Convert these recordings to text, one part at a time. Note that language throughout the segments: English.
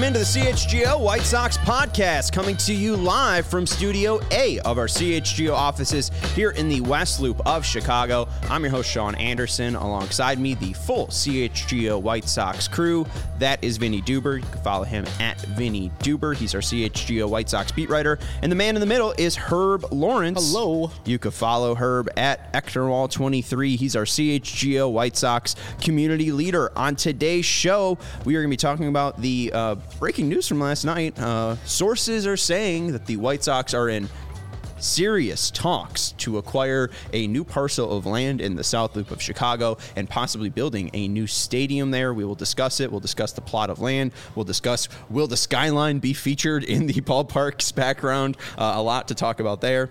into the CHGO White Sox podcast, coming to you live from Studio A of our CHGO offices here in the West Loop of Chicago. I'm your host, Sean Anderson. Alongside me, the full CHGO White Sox crew. That is Vinny Duber. You can follow him at Vinny Duber. He's our CHGO White Sox beat writer. And the man in the middle is Herb Lawrence. Hello. You can follow Herb at Ectorwall23. He's our CHGO White Sox community leader. On today's show, we are going to be talking about the breaking news from last night. Sources are saying that the White Sox are in serious talks to acquire a new parcel of land in the South Loop of Chicago and possibly building a new stadium there. We will discuss it. We'll discuss the plot of land. We'll discuss, will the skyline be featured in the ballpark's background? A lot to talk about there.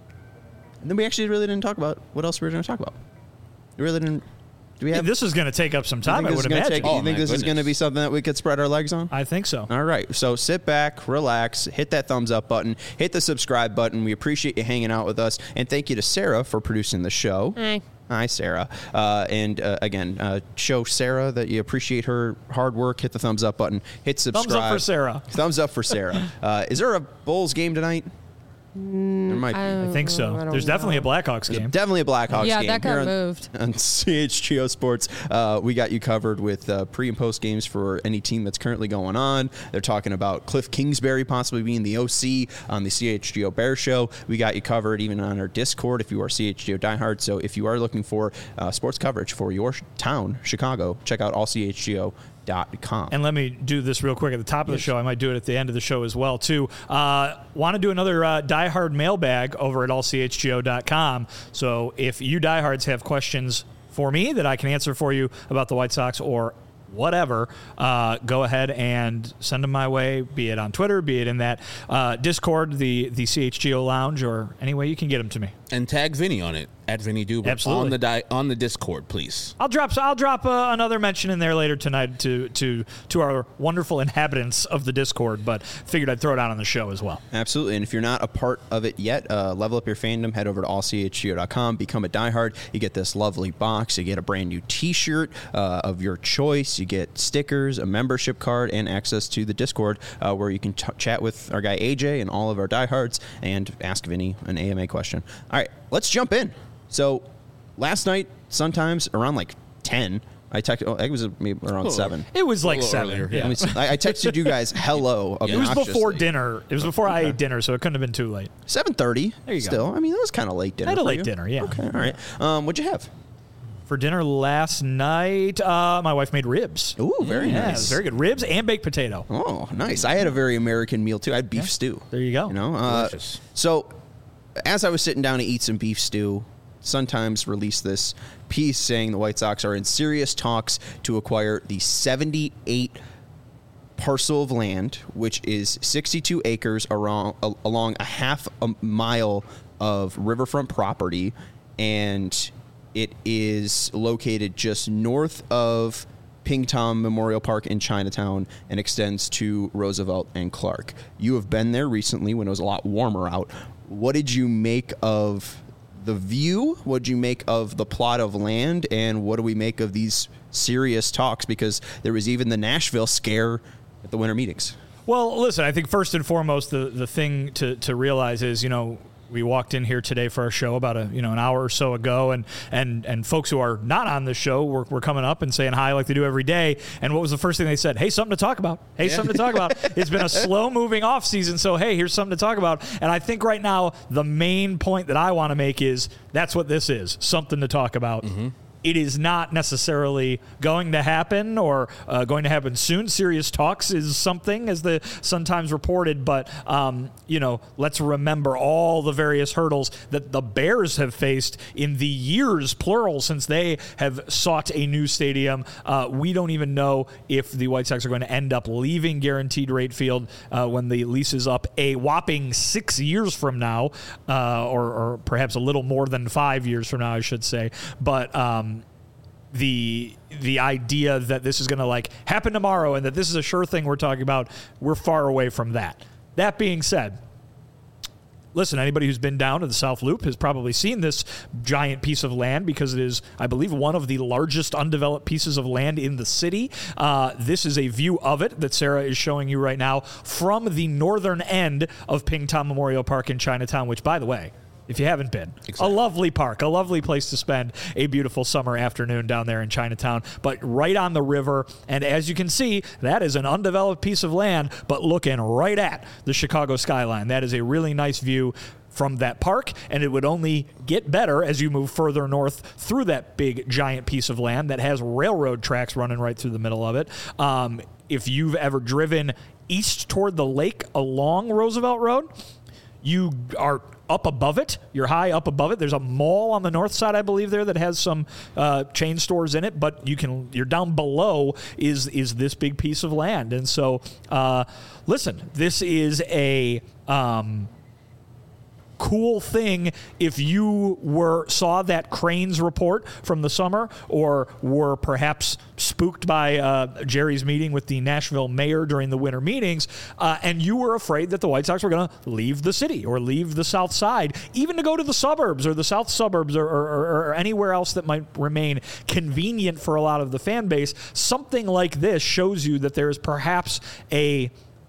And then we actually really didn't talk about what else we were going to talk about. We really didn't. Do we have? This is going to take up some time, I would imagine. You think this is going to be something that we could spread our legs on? I think so. All right. So sit back, relax, hit that thumbs up button, hit the subscribe button. We appreciate you hanging out with us. And thank you to Sarah for producing the show. Hi, Sarah. Again, show Sarah that you appreciate her hard work. Hit the thumbs up button. Hit subscribe. Thumbs up for Sarah. Thumbs up for Sarah. Is there a Bulls game tonight? There might be. I think so. There's definitely a Blackhawks game. Definitely a Blackhawks game. Yeah, that got moved. On CHGO Sports, we got you covered with pre- and post games for any team that's currently going on. They're talking about Cliff Kingsbury possibly being the OC on the CHGO Bear Show. We got you covered even on our Discord if you are CHGO diehard. So if you are looking for sports coverage for your town, Chicago, check out allchgo.com. And let me do this real quick at the top of the show. I might do it at the end of the show as well, too. Want to do another diehard mailbag over at allchgo.com. So if you diehards have questions for me that I can answer for you about the White Sox or whatever, go ahead and send them my way, be it on Twitter, be it in that Discord, the CHGO Lounge, or any way you can get them to me. And tag Vinny on it, at Vinny Duber. Absolutely. On the Discord, please. I'll drop another mention in there later tonight to our wonderful inhabitants of the Discord, but figured I'd throw it out on the show as well. Absolutely. And if you're not a part of it yet, level up your fandom, head over to allchgo.com, become a diehard. You get this lovely box. You get a brand new t-shirt of your choice. You get stickers, a membership card, and access to the Discord where you can chat with our guy AJ and all of our diehards and ask Vinny an AMA question. All right, let's jump in. So last night, sometimes around like 10, I texted. It was maybe around 7. It was like 7. Yeah. I texted you guys hello. It was before dinner. It was before I ate dinner, so it couldn't have been too late. 7:30. There you still, go. I mean, it was kind of late dinner. I had a for late you. dinner, yeah. Okay, all right. What'd you have? For dinner last night, my wife made ribs. Ooh, very nice. nice. Very good. Ribs and baked potato. Oh, nice. I had a very American meal, too. I had beef stew. There you go. You know, Delicious. So as I was sitting down to eat some beef stew, Sun Times released this piece saying the White Sox are in serious talks to acquire the 78 parcel of land, which is 62 acres along a half a mile of riverfront property, and it is located just north of Pingtom Memorial Park in Chinatown and extends to Roosevelt and Clark. You have been there recently when it was a lot warmer out. What did you make of the view? What did you make of the plot of land? And what do we make of these serious talks? Because there was even the Nashville scare at the winter meetings. Well, listen, I think first and foremost, the thing to realize is, you know, we walked in here today for our show about an hour or so ago, and folks who are not on the show were coming up and saying hi like they do every day. And what was the first thing they said? Hey, something to talk about. Hey, something to talk about. It's been a slow-moving off season, so hey, here's something to talk about. And I think right now the main point that I want to make is that's what this is, something to talk about. Mm-hmm. It is not necessarily going to happen or going to happen soon. Serious talks is something, as the Sun Times reported, but, let's remember all the various hurdles that the Bears have faced in the years, plural, since they have sought a new stadium. We don't even know if the White Sox are going to end up leaving Guaranteed Rate Field when the lease is up a whopping 6 years from now, or perhaps a little more than 5 years from now, I should say. But the idea that this is going to happen tomorrow and that this is a sure thing we're talking about, we're far away from that. That being said, listen, anybody who's been down to the South Loop has probably seen this giant piece of land because it is, I believe, one of the largest undeveloped pieces of land in the city. This is a view of it that Sarah is showing you right now from the northern end of Pingtan Memorial Park in Chinatown, which, by the way, if you haven't been, a lovely park, a lovely place to spend a beautiful summer afternoon down there in Chinatown, but right on the river. And as you can see, that is an undeveloped piece of land, but looking right at the Chicago skyline. That is a really nice view from that park, and it would only get better as you move further north through that big, giant piece of land that has railroad tracks running right through the middle of it. If you've ever driven east toward the lake along Roosevelt Road, you are up above it. You're high up above it. There's a mall on the north side, I believe, there that has some chain stores in it, but you're down below is this big piece of land. And so, listen, this is a cool thing if you saw that Cranes report from the summer, or were perhaps spooked by Jerry's meeting with the Nashville mayor during the winter meetings, and you were afraid that the White Sox were going to leave the city or leave the south side, even to go to the suburbs or the south suburbs or anywhere else that might remain convenient for a lot of the fan base. Something like this shows you that there is perhaps a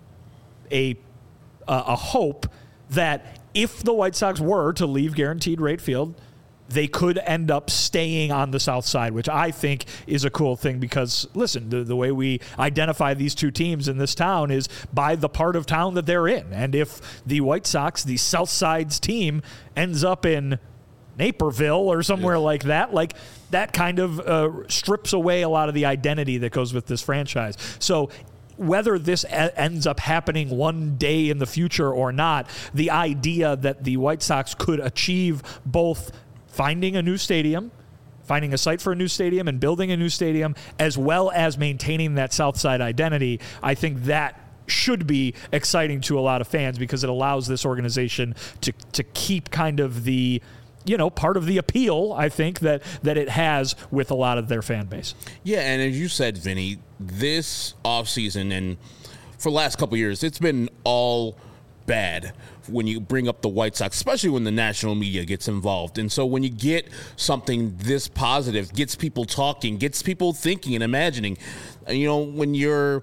hope that if the White Sox were to leave Guaranteed Rate Field, they could end up staying on the south side, which I think is a cool thing because, listen, the way we identify these two teams in this town is by the part of town that they're in. And if the White Sox, the south side's team, ends up in Naperville or somewhere like that kind of strips away a lot of the identity that goes with this franchise. So whether this ends up happening one day in the future or not, the idea that the White Sox could achieve both finding a new stadium, finding a site for a new stadium and building a new stadium, as well as maintaining that South Side identity, I think that should be exciting to a lot of fans because it allows this organization to keep kind of the, part of the appeal, I think, that it has with a lot of their fan base. Yeah, and as you said, Vinny, this offseason and for the last couple of years, it's been all bad when you bring up the White Sox, especially when the national media gets involved. And so when you get something this positive, gets people talking, gets people thinking and imagining, when you're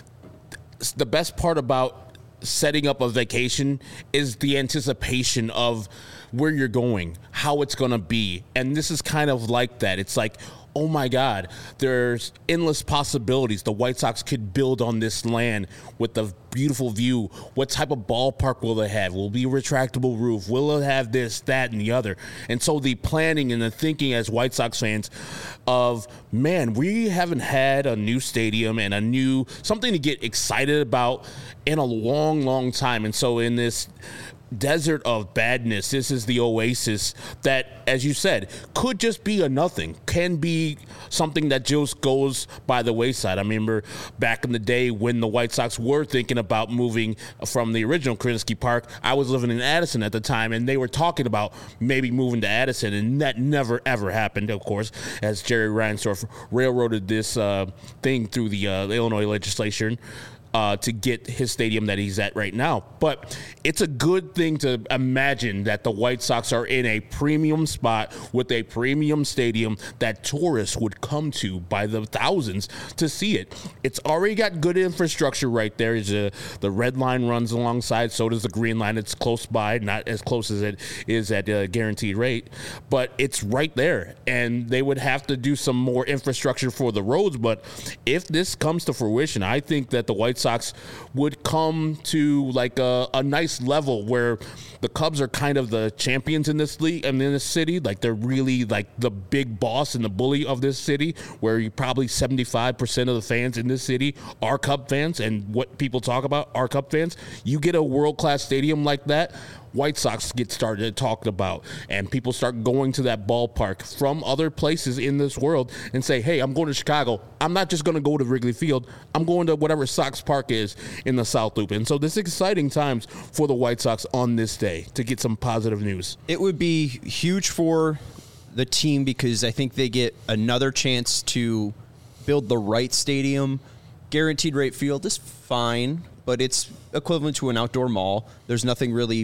– the best part about setting up a vacation is the anticipation of where you're going, how it's going to be. And this is kind of like that. It's like, oh my God, there's endless possibilities. The White Sox could build on this land with a beautiful view. What type of ballpark will it have? Will it be a retractable roof? Will it have this, that, and the other? And so the planning and the thinking as White Sox fans of, man, we haven't had a new stadium and something to get excited about in a long, long time. And so in this desert of badness, this is the oasis that, as you said, could just be a nothing, can be something that just goes by the wayside. I remember back in the day when the White Sox were thinking about moving from the original Krinsky Park. I was living in Addison at the time, and they were talking about maybe moving to Addison, and that never, ever happened, of course, as Jerry Reinsdorf railroaded this thing through the Illinois legislature to get his stadium that he's at right now. But it's a good thing to imagine that the White Sox are in a premium spot with a premium stadium that tourists would come to by the thousands to see it. It's already got good infrastructure right there. The red line runs alongside, so does the green line. It's close by, not as close as it is at Guaranteed Rate, but it's right there. And they would have to do some more infrastructure for the roads. But if this comes to fruition, I think that the White Sox would come to like a nice level where the Cubs are kind of the champions in this league and in this city. Like they're really like the big boss and the bully of this city, where you probably 75% of the fans in this city are Cub fans, and what people talk about are Cub fans. You get a world-class stadium like that, White Sox get started talked about, and people start going to that ballpark from other places in this world and say, hey, I'm going to Chicago. I'm not just going to go to Wrigley Field. I'm going to whatever Sox Park is in the South Loop. And so this is exciting times for the White Sox on this day to get some positive news. It would be huge for the team because I think they get another chance to build the right stadium. Guaranteed Rate Field is fine, but it's equivalent to an outdoor mall. There's nothing really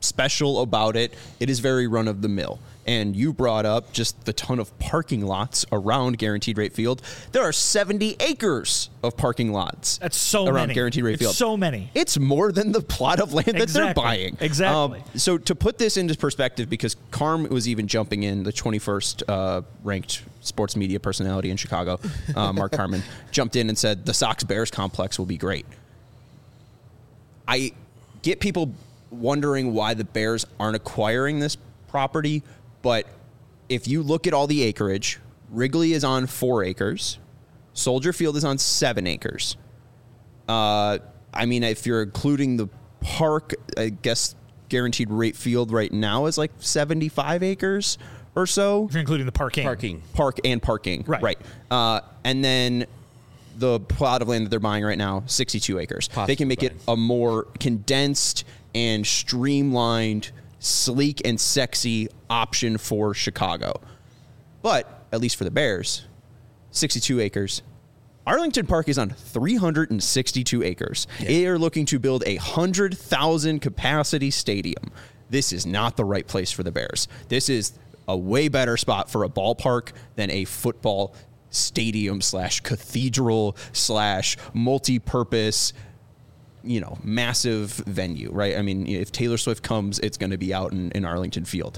special about it. It is very run of the mill. And you brought up just the ton of parking lots around Guaranteed Rate Field. There are 70 acres of parking lots. That's so around many. Guaranteed Rate Field. So many. It's more than the plot of land that they're buying. Exactly. So to put this into perspective, because Carm was even jumping in, the 21st ranked sports media personality in Chicago, Mark Carman, jumped in and said the Sox-Bears complex will be great. I get people wondering why the Bears aren't acquiring this property, but if you look at all the acreage, Wrigley is on 4 acres. Soldier Field is on 7 acres. I mean, if you're including the park, I guess Guaranteed Rate Field right now is like 75 acres or so. If you're including the parking. Park and parking. Right. And then the plot of land that they're buying right now, 62 acres. They can make it a more condensed and streamlined, sleek and sexy option for Chicago. But, at least for the Bears, 62 acres. Arlington Park is on 362 acres. Yeah. They are looking to build a 100,000 capacity stadium. This is not the right place for the Bears. This is a way better spot for a ballpark than a football stadium / cathedral / multi-purpose, massive venue, right? I mean, if Taylor Swift comes, it's going to be out in Arlington Field.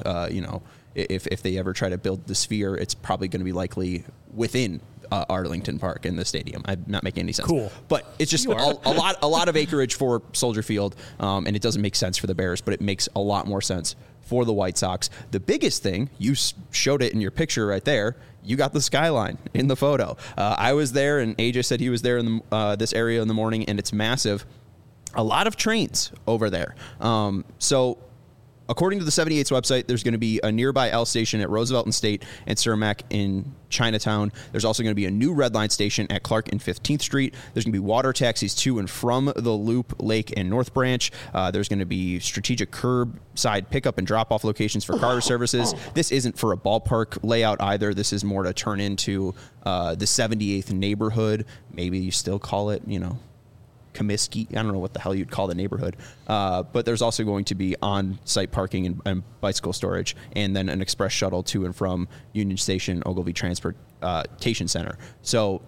If they ever try to build the Sphere, it's probably going to be likely within Arlington Park in the stadium. I'm not making any sense. Cool. But it's just a lot of acreage for Soldier Field, and it doesn't make sense for the Bears, but it makes a lot more sense for the White Sox. The biggest thing, you showed it in your picture right there, you got the skyline in the photo. I was there, and AJ said he was there in this area in the morning, and it's massive. A lot of trains over there. So according to the 78's website, there's going to be a nearby L station at Roosevelt and State and Cermak in Chinatown. There's also going to be a new Red Line station at Clark and 15th Street. There's going to be water taxis to and from the Loop, Lake, and North Branch. There's going to be strategic curbside pickup and drop-off locations for car services. This isn't for a ballpark layout either. This is more to turn into the 78th neighborhood. Maybe you still call it, Comiskey. I don't know what the hell you'd call the neighborhood. But there's also going to be on-site parking and bicycle storage, and then an express shuttle to and from Union Station, Ogilvie Transportation Center. So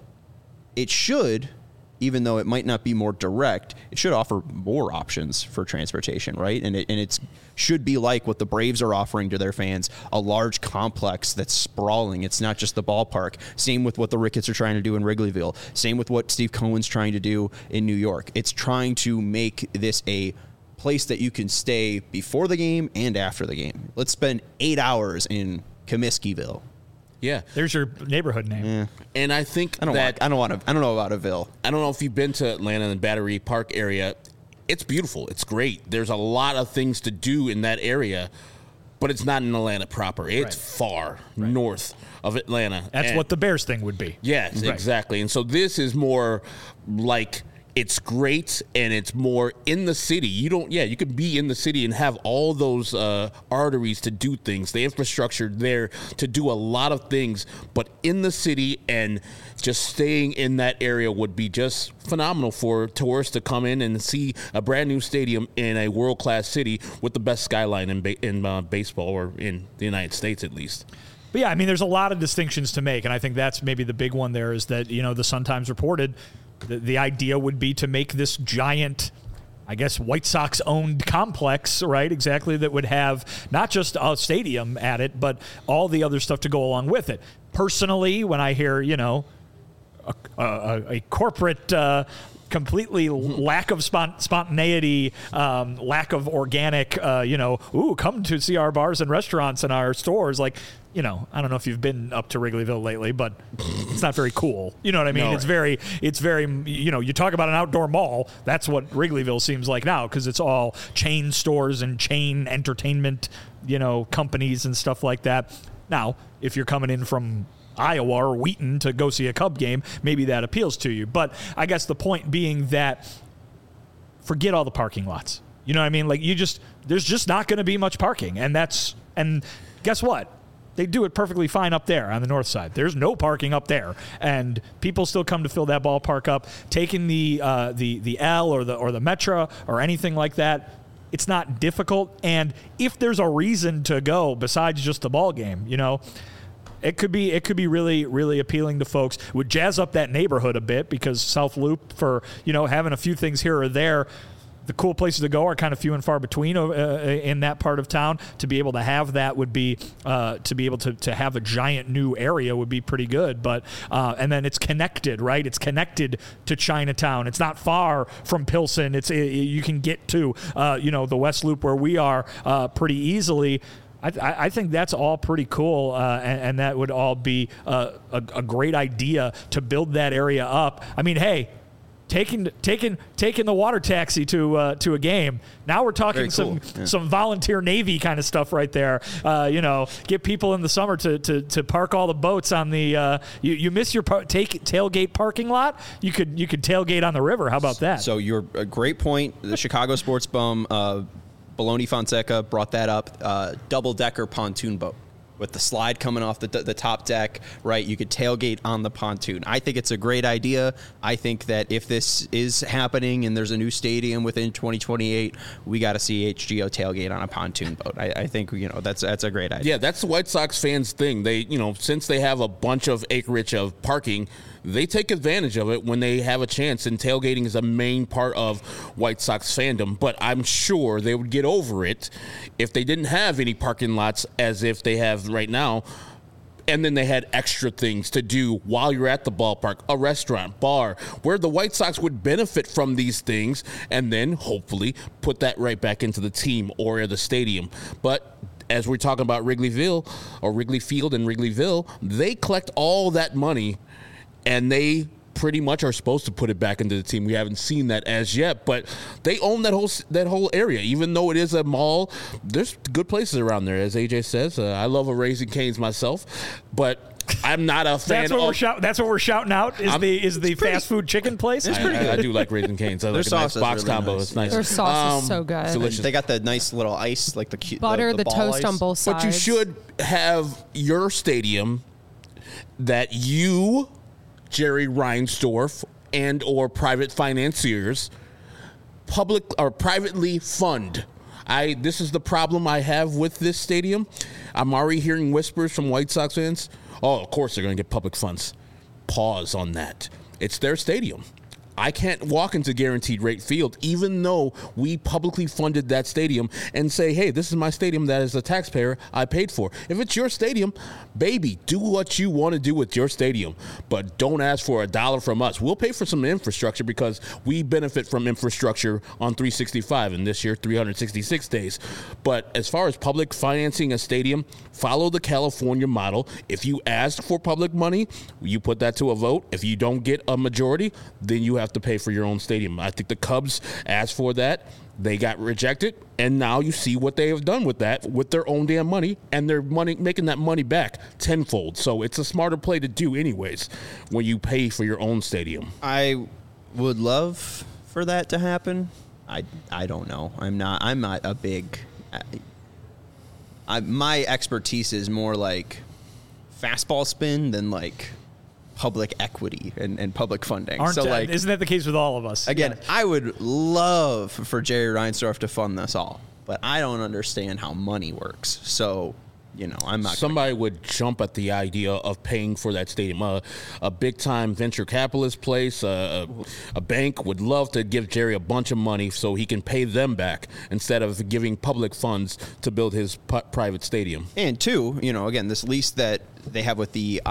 it should, even though it might not be more direct, it should offer more options for transportation, right? And it should be like what the Braves are offering to their fans, a large complex that's sprawling. It's not just the ballpark. Same with what the Ricketts are trying to do in Wrigleyville. Same with what Steve Cohen's trying to do in New York. It's trying to make this a place that you can stay before the game and after the game. Let's spend 8 hours in Comiskeyville. Yeah, there's your neighborhood name. Yeah. And I think I don't know about a Ville. I don't know if you've been to Atlanta and the Battery Park area. It's beautiful. It's great. There's a lot of things to do in that area, but it's not in Atlanta proper. It's far north of Atlanta. That's what the Bears thing would be. Yes, exactly. And so this is more like it's great, and it's more in the city. You could be in the city and have all those arteries to do things, the infrastructure there to do a lot of things, but in the city, and just staying in that area would be just phenomenal for tourists to come in and see a brand new stadium in a world-class city with the best skyline in baseball, or in the United States at least. But yeah, I mean, there's a lot of distinctions to make, and I think that's maybe the big one there is that, the Sun-Times reported the idea would be to make this giant, I guess, White Sox-owned complex, right, exactly, that would have not just a stadium at it, but all the other stuff to go along with it. Personally, when I hear, a corporate completely lack of spontaneity, lack of organic, come to see our bars and restaurants and our stores. Like, I don't know if you've been up to Wrigleyville lately, but it's not very cool. You know what I mean? No. It's very, you talk about an outdoor mall. That's what Wrigleyville seems like now, because it's all chain stores and chain entertainment, companies and stuff like that. Now, if you're coming in from Iowa or Wheaton to go see a Cub game, maybe that appeals to you. But I guess the point being that forget all the parking lots. You know what I mean? Like, there's just not going to be much parking. And guess what? They do it perfectly fine up there on the north side. There's no parking up there, and people still come to fill that ballpark up. Taking the L or the Metro or anything like that, It's not difficult. And if there's a reason to go besides just the ball game, it could be really, really appealing to folks. Would jazz up that neighborhood a bit, because South Loop, for having a few things here or there, the cool places to go are kind of few and far between in that part of town. To be able to have that would be to be able to have a giant new area would be pretty good. But and then it's connected, right? It's connected to Chinatown. It's not far from Pilsen. You can get to the West Loop where we are pretty easily. I think that's all pretty cool, and that would all be a great idea to build that area up. I mean, hey, taking the water taxi to a game. Now we're talking some volunteer Navy kind of stuff right there. Get people in the summer to park all the boats on the. You miss your tailgate parking lot. You could tailgate on the river. How about that? So you're a great point. The Chicago Sports Bum, Baloney Fonseca brought that up. Double-decker pontoon boat with the slide coming off the top deck, right? You could tailgate on the pontoon. I think it's a great idea. I think that if this is happening and there's a new stadium within 2028, we got to see HGO tailgate on a pontoon boat. I think that's a great idea. Yeah, that's the White Sox fans' thing. They since they have a bunch of acreage of parking, they take advantage of it when they have a chance, and tailgating is a main part of White Sox fandom. But I'm sure they would get over it if they didn't have any parking lots as if they have right now, and then they had extra things to do while you're at the ballpark, a restaurant, bar, where the White Sox would benefit from these things, and then hopefully put that right back into the team or the stadium. But as we're talking about Wrigleyville or Wrigley Field and Wrigleyville, they collect all that money, and they pretty much are supposed to put it back into the team. We haven't seen that as yet, but they own that whole area. Even though it is a mall, there's good places around there, as AJ says. I love a Raising Cane's myself, but I'm not a fan. That's what we're shouting out. Is the fast food chicken place? It's pretty good. I do like Raising Cane's. I like a nice box really combo. Nice. It's nice. Their sauce is so good. Delicious. They got the nice little ice, like the cute butter, the ball toast ice on both sides. But you should have your stadium that you, Jerry Reinsdorf, and or private financiers public or privately fund. This is the problem I have with this stadium. I'm already hearing whispers from White Sox fans. Oh, of course they're going to get public funds. Pause on that. It's their stadium. I can't walk into Guaranteed Rate Field, even though we publicly funded that stadium, and say, hey, this is my stadium that as a taxpayer I paid for. If it's your stadium, baby, do what you want to do with your stadium, but don't ask for $1 from us. We'll pay for some infrastructure because we benefit from infrastructure on 365, and this year 366 days. But as far as public financing a stadium, follow the California model. If you ask for public money, you put that to a vote. If you don't get a majority, then you have to pay for your own stadium. I think the Cubs asked for that. They got rejected, and now you see what they have done with that, with their own damn money, and they're making that money back tenfold. So it's a smarter play to do anyways when you pay for your own stadium. I would love for that to happen. I don't know. I'm not a big... my expertise is more like fastball spin than like public equity and public funding. Isn't that the case with all of us? Again, yeah. I would love for Jerry Reinsdorf to fund this all, but I don't understand how money works. So, I'm not. Somebody would jump at the idea of paying for that stadium. A big-time venture capitalist place, a bank would love to give Jerry a bunch of money so he can pay them back instead of giving public funds to build his private stadium. And two, again, this lease that they have with the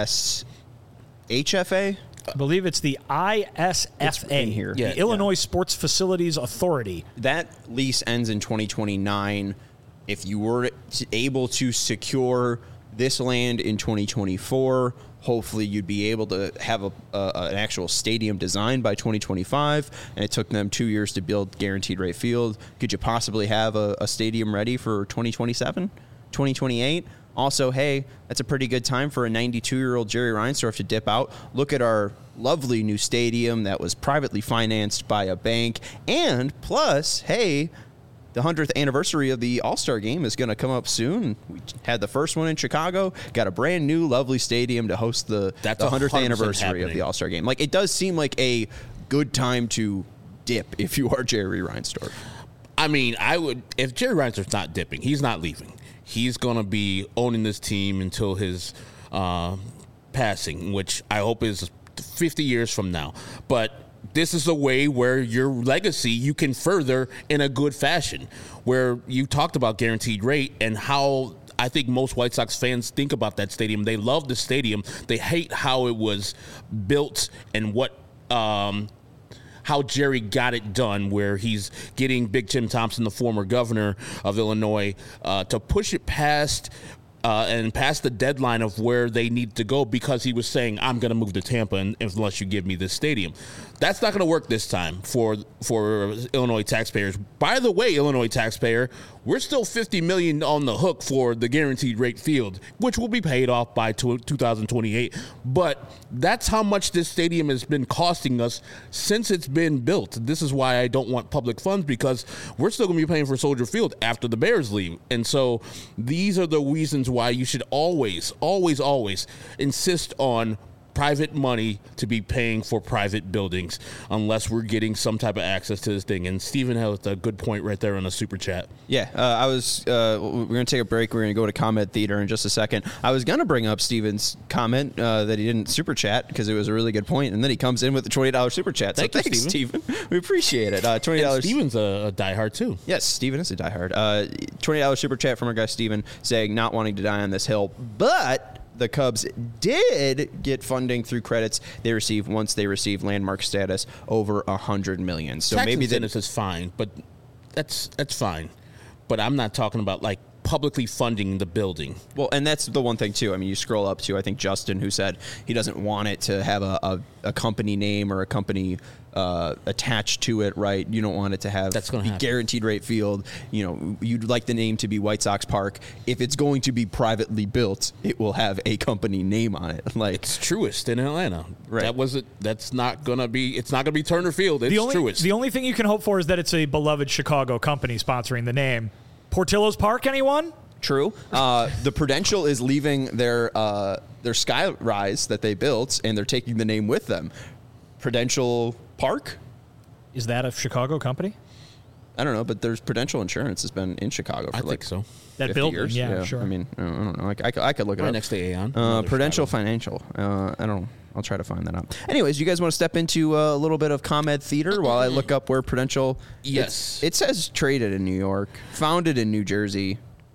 HFA? I believe it's the ISFA here. The Illinois Sports Facilities Authority. That lease ends in 2029. If you were able to secure this land in 2024, hopefully you'd be able to have an actual stadium designed by 2025, and it took them 2 years to build Guaranteed Rate Field. Could you possibly have a stadium ready for 2027, 2028? Also, hey, that's a pretty good time for a 92-year-old Jerry Reinsdorf to dip out. Look at our lovely new stadium that was privately financed by a bank. And plus, hey, the 100th anniversary of the All-Star Game is going to come up soon. We had the first one in Chicago, got a brand new, lovely stadium to host the 100th anniversary happening. of the All-Star Game. Like, it does seem like a good time to dip if you are Jerry Reinsdorf. I mean, I would, if Jerry Reinsdorf's not dipping, he's not leaving. He's going to be owning this team until his passing, which I hope is 50 years from now. But this is a way where your legacy you can further in a good fashion, where you talked about guaranteed rate and how I think most White Sox fans think about that stadium. They love the stadium. They hate how it was built and what how Jerry got it done, where he's getting Big Jim Thompson, the former governor of Illinois, to push it past and past the deadline of where they need to go, because he was saying, I'm going to move to Tampa unless you give me this stadium. That's not going to work this time for Illinois taxpayers. By the way, Illinois taxpayer, we're still $50 million on the hook for the guaranteed rate field, which will be paid off by 2028. But that's how much this stadium has been costing us since it's been built. This is why I don't want public funds, because we're still going to be paying for Soldier Field after the Bears leave. And so these are the reasons why you should always, always, always insist on private money to be paying for private buildings, unless we're getting some type of access to this thing. And Steven has a good point right there on the super chat. Yeah, we're going to take a break. We're going to go to Comment Theater in just a second. I was going to bring up Steven's comment that he didn't super chat because it was a really good point, and then he comes in with the $20 super chat. So thanks, Steven. We appreciate it. $20. And Steven's a diehard too. Yes, Steven is a diehard. $20 super chat from our guy Steven, saying not wanting to die on this hill, but the Cubs did get funding through credits they received once they received landmark status over $100 million. So tax maybe incentives is fine, but that's fine. But I'm not talking about like publicly funding the building. Well, and that's the one thing too. I mean, you scroll up to, I think, Justin, who said he doesn't want it to have a company name or a company attached to it, right? You don't want it to have the guaranteed rate field. You know, you'd like the name to be White Sox Park. If it's going to be privately built, it will have a company name on it. Like, it's Truist in Atlanta. Right. That's not gonna be. It's not gonna be Turner Field. It's Truist. The only thing you can hope for is that it's a beloved Chicago company sponsoring the name. Portillo's Park, anyone? True. The Prudential is leaving their skyrise that they built, and they're taking the name with them. Prudential Park? Is that a Chicago company? I don't know, but there's Prudential Insurance has been in Chicago for I think so. That building, years. Yeah, sure. I mean, I don't know. I could look it right up. Next to Aon. Prudential Financial. I don't know. I'll try to find that out. Anyways, you guys want to step into a little bit of ComEd Theater while I look up where Prudential... Yes. It says traded in New York, founded in New Jersey.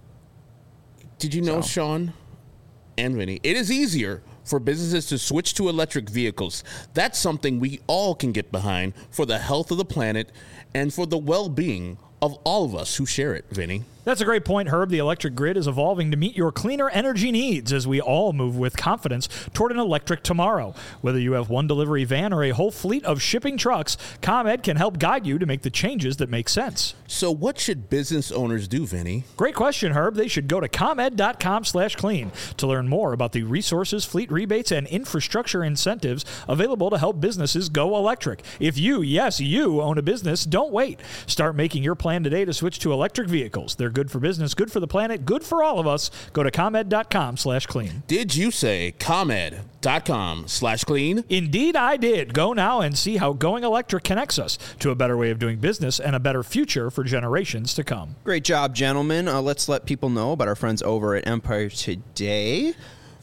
Did you know, Sean and Vinny, it is easier for businesses to switch to electric vehicles. That's something we all can get behind for the health of the planet and for the well-being of all of us who share it, Vinny. That's a great point, Herb. The electric grid is evolving to meet your cleaner energy needs as we all move with confidence toward an electric tomorrow. Whether you have one delivery van or a whole fleet of shipping trucks, ComEd can help guide you to make the changes that make sense. So what should business owners do, Vinny? Great question, Herb. They should go to ComEd.com/clean to learn more about the resources, fleet rebates, and infrastructure incentives available to help businesses go electric. If you, yes, you own a business, don't wait. Start making your plan today to switch to electric vehicles. They're good for business, good for the planet, good for all of us. Go to ComEd.com/clean. Did you say ComEd.com/clean? Indeed, I did. Go now and see how going electric connects us to a better way of doing business and a better future for generations to come. Great job, gentlemen. Let's let people know about our friends over at Empire Today.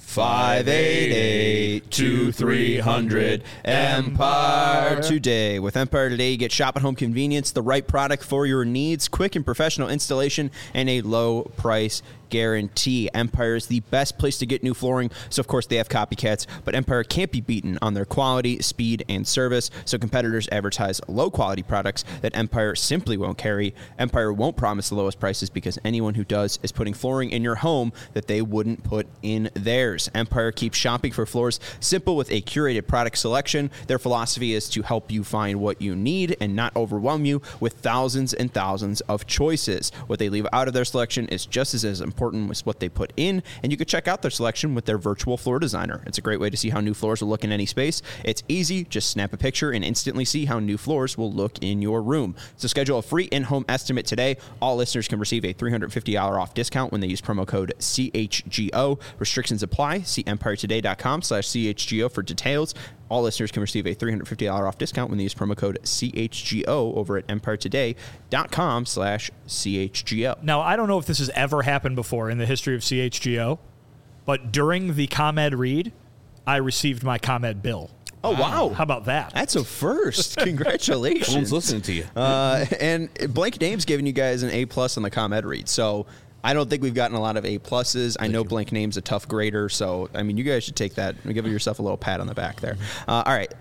588-2300 Empire Today. With Empire Today, you get shop at home convenience, the right product for your needs, quick and professional installation, and a low price guarantee. Empire is the best place to get new flooring, so of course they have copycats, but Empire can't be beaten on their quality, speed, and service, so competitors advertise low-quality products that Empire simply won't carry. Empire won't promise the lowest prices because anyone who does is putting flooring in your home that they wouldn't put in theirs. Empire keeps shopping for floors simple with a curated product selection. Their philosophy is to help you find what you need and not overwhelm you with thousands and thousands of choices. What they leave out of their selection is just as important as what they put in, and you can check out their selection with their virtual floor designer. It's a great way to see how new floors will look in any space. It's easy. Just snap a picture and instantly see how new floors will look in your room. So schedule a free in-home estimate today. All listeners can receive a $350 off discount when they use promo code CHGO. Restrictions apply. See EmpireToday.com/CHGO for details. All listeners can receive a $350 off discount when they use promo code CHGO over at EmpireToday.com/CHGO. Now, I don't know if this has ever happened before in the history of CHGO, but during the ComEd read, I received my ComEd bill. Oh, wow. How about that? That's a first. Congratulations. Someone's listening to you. And Blank Name's giving you guys an A+ on the ComEd read. So I don't think we've gotten a lot of A+. I know Blank Name's a tough grader. So, I mean, you guys should take that and give yourself a little pat on the back there. All right.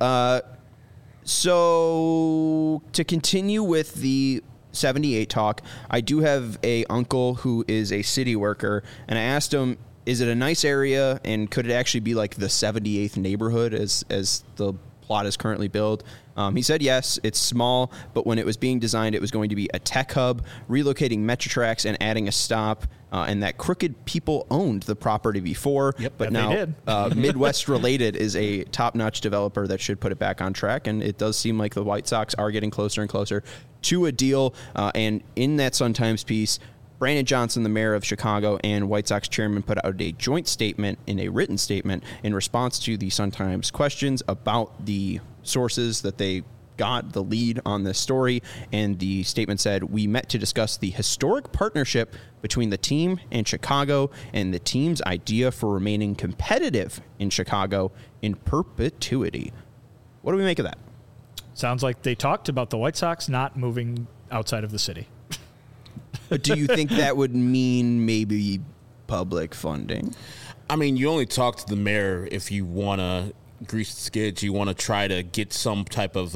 So to continue with the 78 talk, I do have a uncle who is a city worker, and I asked him, is it a nice area, and could it actually be like the 78th neighborhood as the plot is currently built? He said yes, it's small, but when it was being designed, it was going to be a tech hub, relocating Metrotrax and adding a stop, and that Crooked people owned the property before, but now Midwest Related is a top-notch developer that should put it back on track, and it does seem like the White Sox are getting closer and closer to a deal, and in that Sun-Times piece, Brandon Johnson, the mayor of Chicago, and White Sox chairman put out a joint statement, in a written statement, in response to the Sun-Times questions about the sources that they got the lead on this story. And the statement said, "We met to discuss the historic partnership between the team and Chicago and the team's idea for remaining competitive in Chicago in perpetuity." What do we make of that? Sounds like they talked about the White Sox not moving outside of the city. But do you think that would mean maybe public funding? I mean, you only talk to the mayor if you want to grease the skids. You want to try to get some type of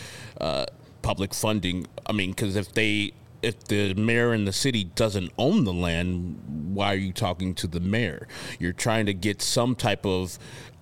public funding. I mean, because if the mayor in the city doesn't own the land, why are you talking to the mayor? You're trying to get some type of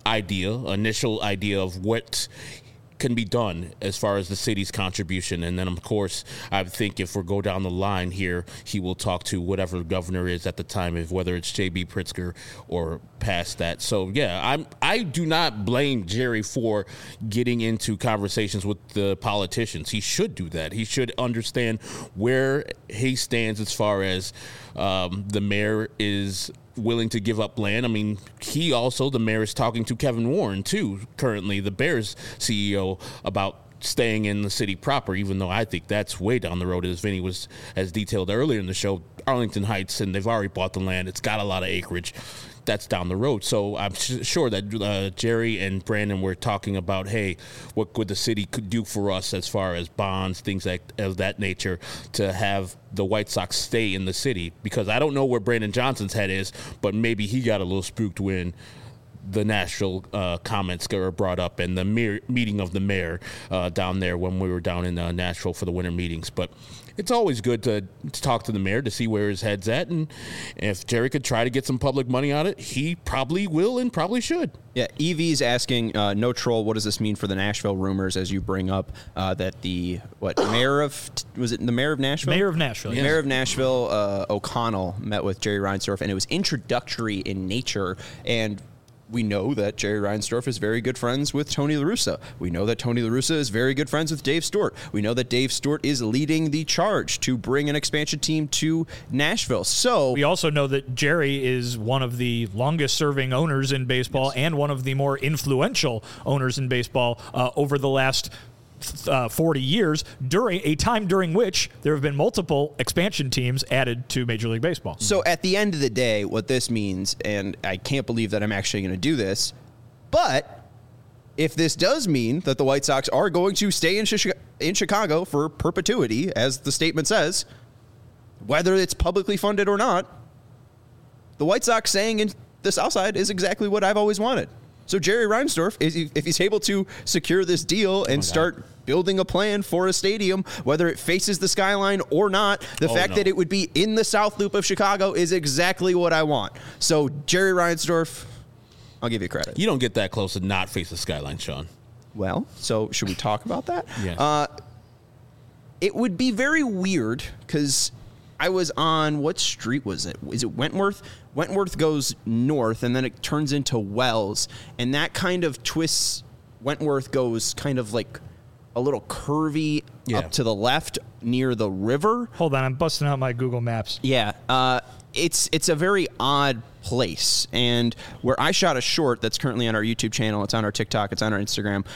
initial idea of what can be done as far as the city's contribution. And then, of course, I think if we go down the line here, he will talk to whatever governor is at the time, whether it's J.B. Pritzker or past that. So, yeah, I do not blame Jerry for getting into conversations with the politicians. He should do that. He should understand where he stands as far as the mayor is willing to give up land. I mean, the mayor is talking to Kevin Warren, too, currently, the Bears CEO, about staying in the city proper, even though I think that's way down the road, as Vinny has detailed earlier in the show. Arlington Heights, and they've already bought the land. It's got a lot of acreage. That's down the road. So I'm sure that Jerry and Brandon were talking about, hey, what could the city could do for us as far as bonds, things of that nature, to have the White Sox stay in the city. Because I don't know where Brandon Johnson's head is, but maybe he got a little spooked when the Nashville comments were brought up and the meeting of the mayor down there when we were down in Nashville for the winter meetings. But it's always good to talk to the mayor to see where his head's at. And if Jerry could try to get some public money on it, he probably will and probably should. Yeah, EV's asking, no troll, what does this mean for the Nashville rumors as you bring up that mayor of Nashville? Mayor of Nashville, yes. Mayor of Nashville, O'Connell, met with Jerry Reinsdorf, and it was introductory in nature. And we know that Jerry Reinsdorf is very good friends with Tony La Russa. We know that Tony La Russa is very good friends with Dave Stewart. We know that Dave Stewart is leading the charge to bring an expansion team to Nashville. So we also know that Jerry is one of the longest-serving owners in baseball, yes, and one of the more influential owners in baseball over the last 40 years, during a time during which there have been multiple expansion teams added to Major League Baseball. So at the end of the day, what this means, and I can't believe that I'm actually going to do this, but if this does mean that the White Sox are going to stay in Chicago for perpetuity, as the statement says, whether it's publicly funded or not, the White Sox staying in the South Side is exactly what I've always wanted. So Jerry Reinsdorf, if he's able to secure this deal and start building a plan for a stadium, whether it faces the skyline or not, the fact that it would be in the South Loop of Chicago is exactly what I want. So Jerry Reinsdorf, I'll give you credit. You don't get that close to not face the skyline, Sean. Well, so should we talk about that? Yeah. It would be very weird because I was on, what street was it? Is it Wentworth? Wentworth goes north, and then it turns into Wells, and that kind of twists. Wentworth goes kind of like a little curvy up to the left near the river. Hold on, I'm busting out my Google Maps. Yeah. it's a very odd place. And where I shot a short that's currently on our YouTube channel, it's on our TikTok, it's on our Instagram.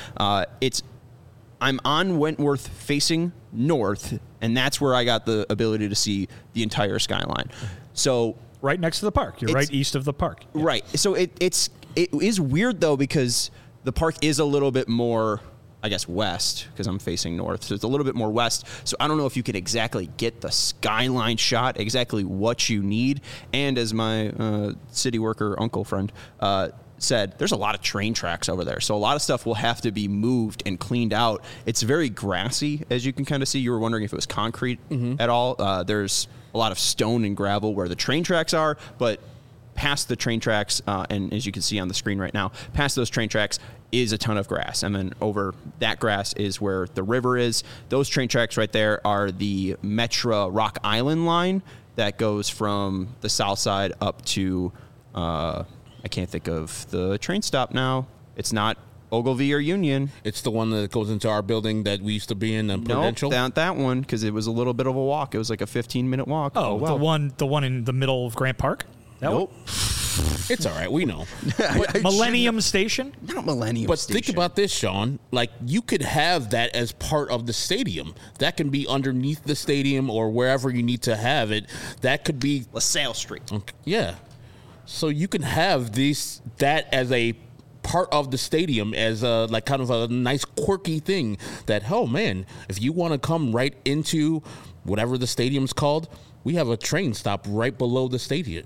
I'm on Wentworth facing north, and that's where I got the ability to see the entire skyline. So right next to the park. You're right east of the park. Yeah. Right. So it is weird, though, because the park is a little bit more, I guess, west, because I'm facing north. So it's a little bit more west. So I don't know if you could exactly get the skyline shot, exactly what you need. And as my city worker uncle friend said, there's a lot of train tracks over there. So a lot of stuff will have to be moved and cleaned out. It's very grassy, as you can kind of see. You were wondering if it was concrete at all. There's a lot of stone and gravel where the train tracks are, but past the train tracks, and as you can see on the screen right now, past those train tracks is a ton of grass. And then over that grass is where the river is. Those train tracks right there are the Metra Rock Island line that goes from the south side up to, I can't think of the train stop now. It's not Ogilvy or Union. It's the one that goes into our building that we used to be in, Prudential? No, not that one, because it was a little bit of a walk. It was like a 15-minute walk. Oh, well. The one in the middle of Grant Park? Nope. It's all right. We know. Millennium Station? Not Millennium But Station. think about this, Sean. Like, you could have that as part of the stadium. That can be underneath the stadium or wherever you need to have it. That could be LaSalle Street. Okay, yeah. So you can have that as a part of the stadium, as a like kind of a nice quirky thing that, oh man, if you want to come right into whatever the stadium's called, we have a train stop right below the stadium,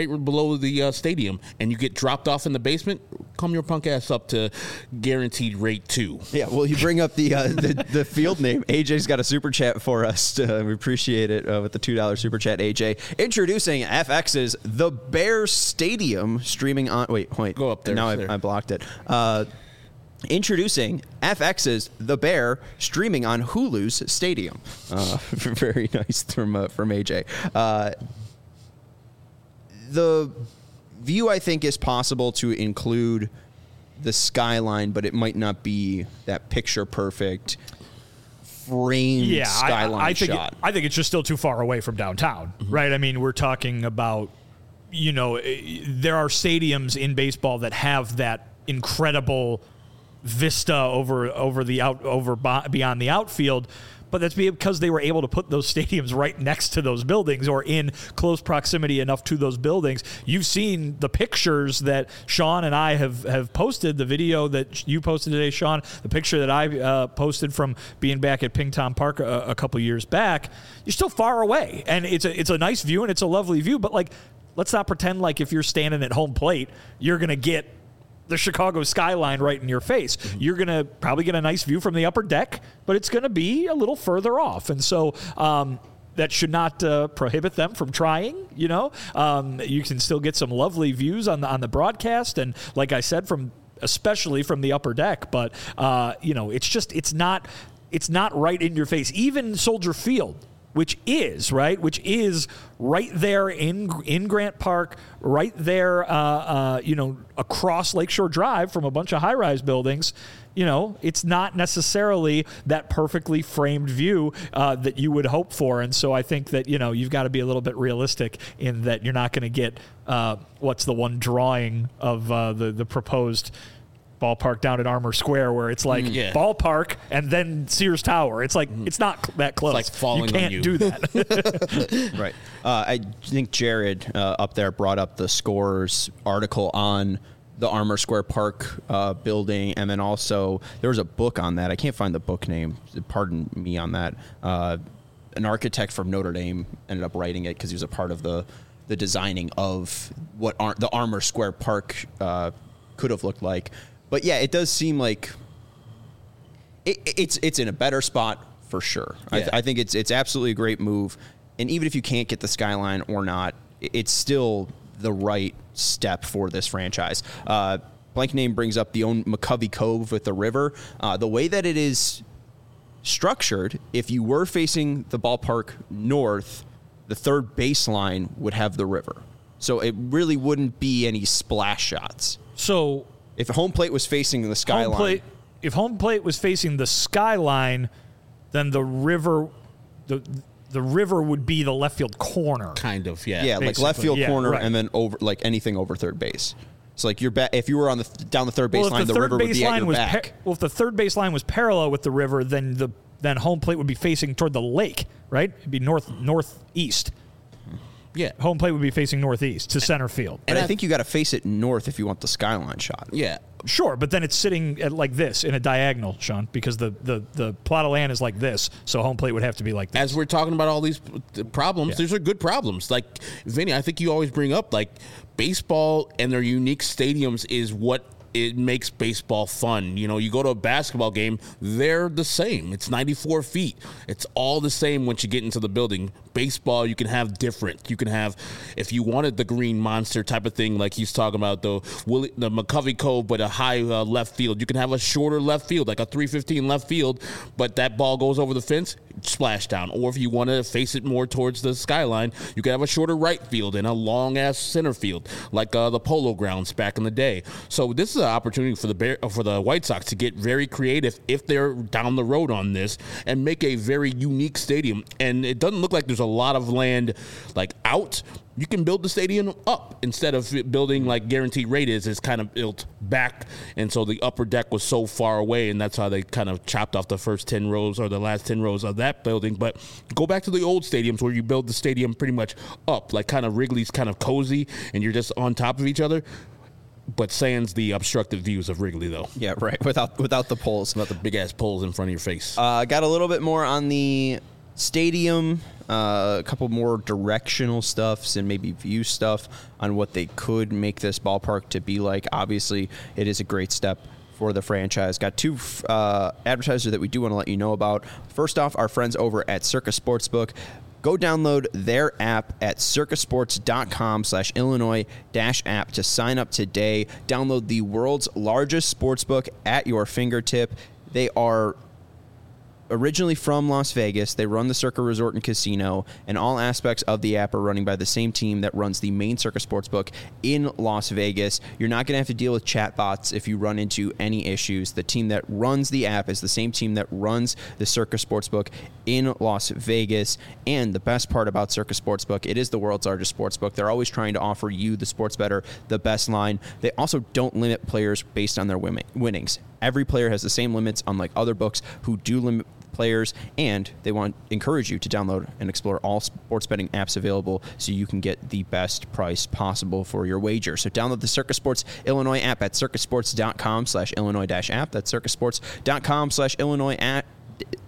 and you get dropped off in the basement. Come your punk ass up to Guaranteed Rate 2. Yeah, well, you bring up the field name. AJ's got a super chat for us. We appreciate it with the $2 super chat, AJ. Introducing FX's The Bears Stadium, streaming on... Wait. Go up there. Now I blocked it. Introducing FX's The Bear, streaming on Hulu's Stadium. Very nice from AJ. The view, I think, is possible to include the skyline, but it might not be that picture-perfect framed skyline shot. I think it's just still too far away from downtown, right? I mean, we're talking about, there are stadiums in baseball that have that incredible vista beyond the outfield, but that's because they were able to put those stadiums right next to those buildings or in close proximity enough to those buildings. You've seen the pictures that Sean and I have posted, the video that you posted today, Sean, the picture that I posted from being back at Ping Tom Park a couple years back. You're still far away, and it's a nice view and it's a lovely view, but like, let's not pretend like if you're standing at home plate, you're going to get the Chicago skyline right in your face. You're going to probably get a nice view from the upper deck, but it's going to be a little further off. And so that should not prohibit them from trying, You can still get some lovely views on the broadcast. And like I said, especially from the upper deck, but it's not right in your face. Even Soldier Field, which is right there in Grant Park, right there, across Lakeshore Drive from a bunch of high-rise buildings. It's not necessarily that perfectly framed view that you would hope for. And so I think that, you've got to be a little bit realistic in that you're not going to get what's the one drawing of the proposed ballpark down at Armour Square where it's like ballpark and then Sears Tower. It's like it's not that close. It's like falling you can't on you. do that. Right. I think Jared up there brought up the Scorer's article on the Armour Square Park building, and then also there was a book on that. I can't find the book name. Pardon me on that. An architect from Notre Dame ended up writing it because he was a part of the designing of what the Armour Square Park could have looked like. But yeah, it does seem like it's in a better spot for sure. Yeah. I think it's absolutely a great move, and even if you can't get the skyline or not, it's still the right step for this franchise. Blank Name brings up the own McCovey Cove with the river. The way that it is structured, if you were facing the ballpark north, the third baseline would have the river, so it really wouldn't be any splash shots. So if home plate was facing the skyline, if home plate was facing the skyline, then the river the river would be the left field corner. Kind of, yeah. Yeah, like left field corner, right. and then over like anything over third base. So like if you were on down the third base line, if the river would be at your back. If the third base line was parallel with the river, then home plate would be facing toward the lake, right? It'd be northeast. Yeah. Home plate would be facing northeast to center field. And I think you got to face it north if you want the skyline shot. Yeah. Sure, but then it's sitting at like this in a diagonal, Sean, because the plot of land is like this, so home plate would have to be like this. As we're talking about all these problems, these are good problems. Like, Vinny, I think you always bring up, like, baseball and their unique stadiums is what it makes baseball fun. You know, you go to a basketball game, they're the same. It's 94 feet. It's all the same once you get into the building. Baseball, you can have different. You can have, if you wanted the green monster type of thing, like he's talking about, the McCovey Cove, but a high left field. You can have a shorter left field, like a 315 left field, but that ball goes over the fence, splash down. Or if you want to face it more towards the skyline, you can have a shorter right field and a long-ass center field, like the Polo Grounds back in the day. So this is an opportunity for the White Sox to get very creative if they're down the road on this and make a very unique stadium. And it doesn't look like there's a lot of land like out. You can build the stadium up instead of building like Guaranteed Rate is. It's kind of built back, and so the upper deck was so far away, and that's how they kind of chopped off the first 10 rows or the last 10 rows of that building. But go back to the old stadiums where you build the stadium pretty much up, like kind of Wrigley's kind of cozy, and you're just on top of each other. But sans the obstructive views of Wrigley, though. Yeah, right. Without the poles. Without the big-ass poles in front of your face. Got a little bit more on the stadium, a couple more directional stuffs and maybe view stuff on what they could make this ballpark to be like. Obviously, it is a great step for the franchise. Got two advertisers that we do want to let you know about. First off, our friends over at Circus Sportsbook. Go download their app at circusports.com/Illinois-app to sign up today. Download the world's largest sportsbook at your fingertip. They are originally from Las Vegas. They run the Circa Resort and Casino, and all aspects of the app are running by the same team that runs the main Circa Sportsbook in Las Vegas. You're not going to have to deal with chatbots if you run into any issues. The team that runs the app is the same team that runs the Circa Sportsbook in Las Vegas. And the best part about Circa Sportsbook, it is the world's largest sportsbook. They're always trying to offer you, the sports bettor, the best line. They also don't limit players based on their winnings. Every player has the same limits, unlike other books who do limit players, and they encourage you to download and explore all sports betting apps available so you can get the best price possible for your wager. So download the Circus Sports Illinois app at circusports.com/Illinois-app. That's circusports.com/Illinois-app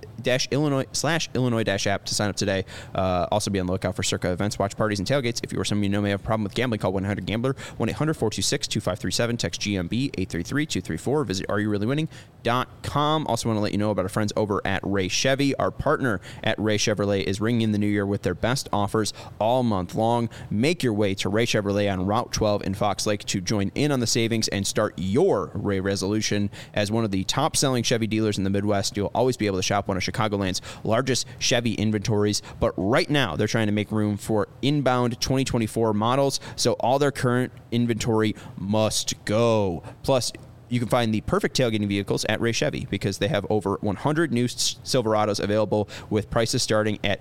to sign up today. Also be on the lookout for Circa events, watch parties, and tailgates. If you or someone you know may have a problem with gambling, call 1-800-GAMBLER, 1-800-426-2537, text GMB 833-234. Visit areyourreallywinning.com. Also want to let you know about our friends over at Ray Chevy. Our partner at Ray Chevrolet is ringing in the new year with their best offers all month long. Make your way to Ray Chevrolet on Route 12 in Fox Lake to join in on the savings and start your Ray resolution. As one of the top-selling Chevy dealers in the Midwest, you'll always be able to shop one of Chicagoland's largest Chevy inventories, but right now they're trying to make room for inbound 2024 models, so all their current inventory must go. Plus, you can find the perfect tailgating vehicles at Ray Chevy because they have over 100 new Silverados available with prices starting at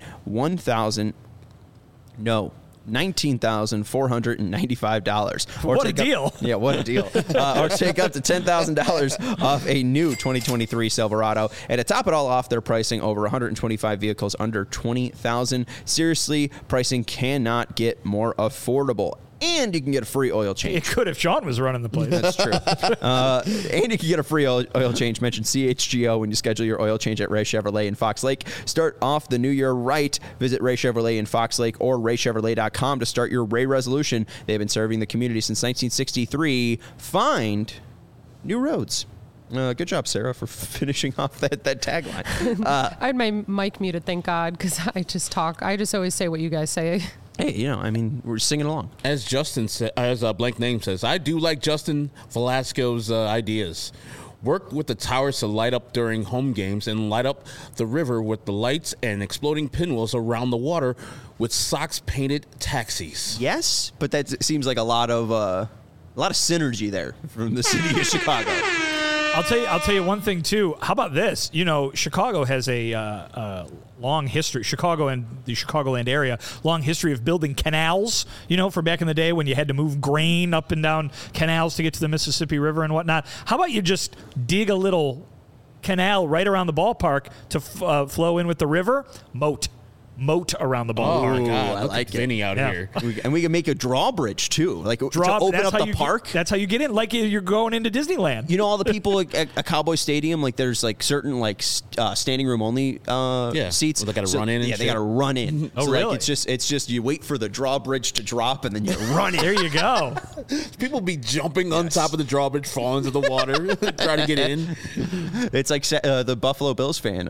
$19,495. What a deal. Yeah, what a deal. Or take up to $10,000 off a new 2023 Silverado. And to top it all off, they're pricing over 125 vehicles under $20,000. Seriously, pricing cannot get more affordable. And you can get a free oil change. It could if Sean was running the place. That's true. And you can get a free oil change. Mention CHGO when you schedule your oil change at Ray Chevrolet in Fox Lake. Start off the new year right. Visit Ray Chevrolet in Fox Lake or raychevrolet.com to start your Ray resolution. They've been serving the community since 1963. Find new roads. Good job, Sarah, for finishing off that tagline. I had my mic muted, thank God, because I just talk. I just always say what you guys say. Hey, I mean, we're singing along. As Justin said, as Blank Name says, I do like Justin Velasco's ideas. Work with the towers to light up during home games and light up the river with the lights and exploding pinwheels around the water with Sox-painted taxis. Yes, but that seems like a lot of synergy there from the city of Chicago. I'll tell you one thing too. How about this? You know, Chicago has a long history. Chicago and the Chicagoland area, long history of building canals. You know, from back in the day when you had to move grain up and down canals to get to the Mississippi River and whatnot. How about you just dig a little canal right around the ballpark to flow in with the river? Moat around the ball. Oh, my God. I Look like at Vinny out here. And we can make a drawbridge, too. Like, to open up the park. That's how you get in. Like you're going into Disneyland. You know, all the people at a Cowboy Stadium, like, there's, like, certain, like, standing room only seats. Well, they got to run in and they got to run in. Oh, so, really? Like, it's just you wait for the drawbridge to drop, and then you run in. There you go. People be jumping on top of the drawbridge, falling into the water, trying to get in. It's like the Buffalo Bills fan.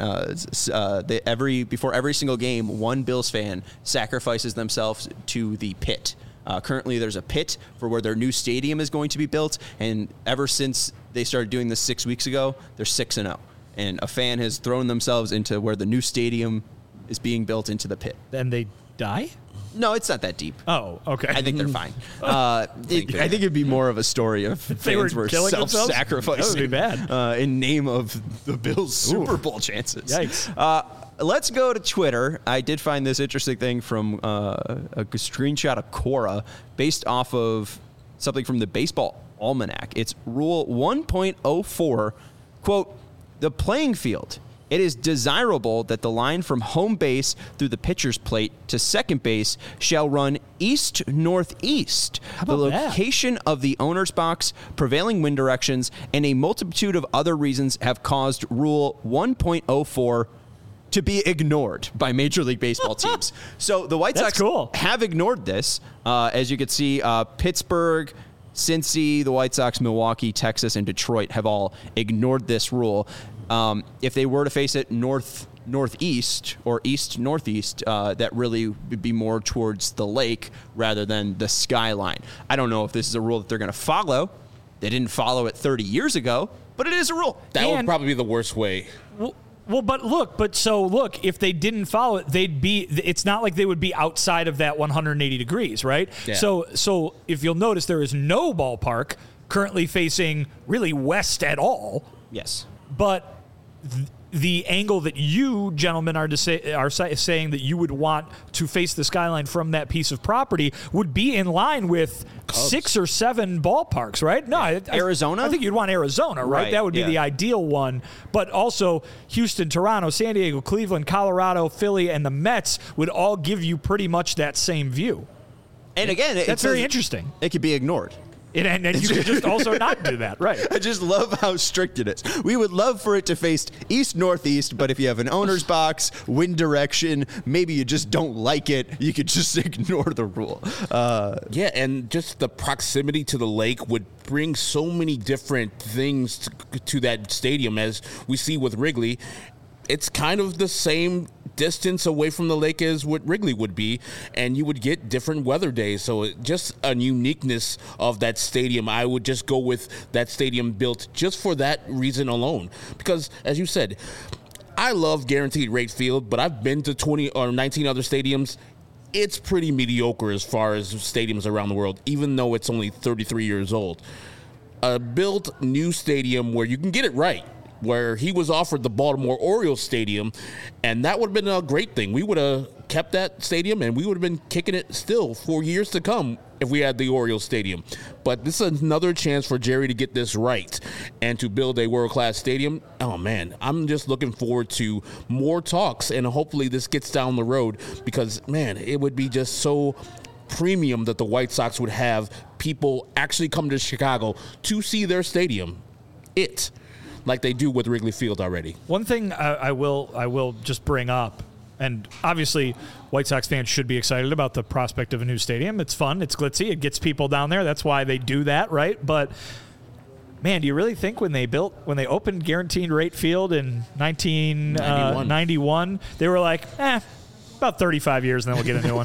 Before every single game, one Bills fan sacrifices themselves to the pit. Currently, there's a pit for where their new stadium is going to be built, and ever since they started doing this 6 weeks ago, they're 6-0. And a fan has thrown themselves into where the new stadium is being built into the pit. And they die? No, it's not that deep. Oh, okay. I think they're fine. I think it'd be more of a story of they fans were killing themselves? self-sacrificing That would be bad. in name of the Bills' Super Bowl chances. Yikes. Let's go to Twitter. I did find this interesting thing from a screenshot of Quora based off of something from the Baseball Almanac. It's Rule 1.04, quote, the playing field. It is desirable that the line from home base through the pitcher's plate to second base shall run east-northeast. The location of the owner's box, prevailing wind directions, and a multitude of other reasons have caused Rule 1.04 to be ignored by Major League Baseball teams. So the White Sox have ignored this. As you can see, Pittsburgh, Cincy, the White Sox, Milwaukee, Texas, and Detroit have all ignored this rule. If they were to face it northeast or east-northeast, that really would be more towards the lake rather than the skyline. I don't know if this is a rule that they're going to follow. They didn't follow it 30 years ago, but it is a rule. That would probably be the worst way. Well, but look, if they didn't follow it, it's not like they would be outside of that 180 degrees, right? Yeah. So if you'll notice, there is no ballpark currently facing really west at all. Yes. But the angle that you gentlemen are saying that you would want to face the skyline from that piece of property would be in line with Cubs. 6 or 7 ballparks, right? No, Arizona? I think you'd want Arizona, right? That would be the ideal one. But also Houston, Toronto, San Diego, Cleveland, Colorado, Philly, and the Mets would all give you pretty much that same view. And again, that's very interesting. It could be ignored. And you could just also not do that, right? I just love how strict it is. We would love for it to face east-northeast, but if you have an owner's box, wind direction, maybe you just don't like it, you could just ignore the rule. Yeah, and just the proximity to the lake would bring so many different things to that stadium, as we see with Wrigley. It's kind of the same distance away from the lake as what Wrigley would be, and you would get different weather days. So just a uniqueness of that stadium. I would just go with that stadium built just for that reason alone. Because, as you said, I love Guaranteed Rate Field, but I've been to 20 or 19 other stadiums. It's pretty mediocre as far as stadiums around the world, even though it's only 33 years old. A built new stadium where you can get it right, where he was offered the Baltimore Orioles stadium, and that would have been a great thing. We would have kept that stadium, and we would have been kicking it still for years to come if we had the Orioles stadium. But this is another chance for Jerry to get this right and to build a world-class stadium. Oh, man, I'm just looking forward to more talks, and hopefully this gets down the road because, man, it would be just so premium that the White Sox would have people actually come to Chicago to see their stadium. Like they do with Wrigley Field already. One thing I will just bring up, and obviously White Sox fans should be excited about the prospect of a new stadium. It's fun. It's glitzy. It gets people down there. That's why they do that, right? But, man, do you really think when they opened Guaranteed Rate Field in 1991, they were like, about 35 years and then we'll get a new one?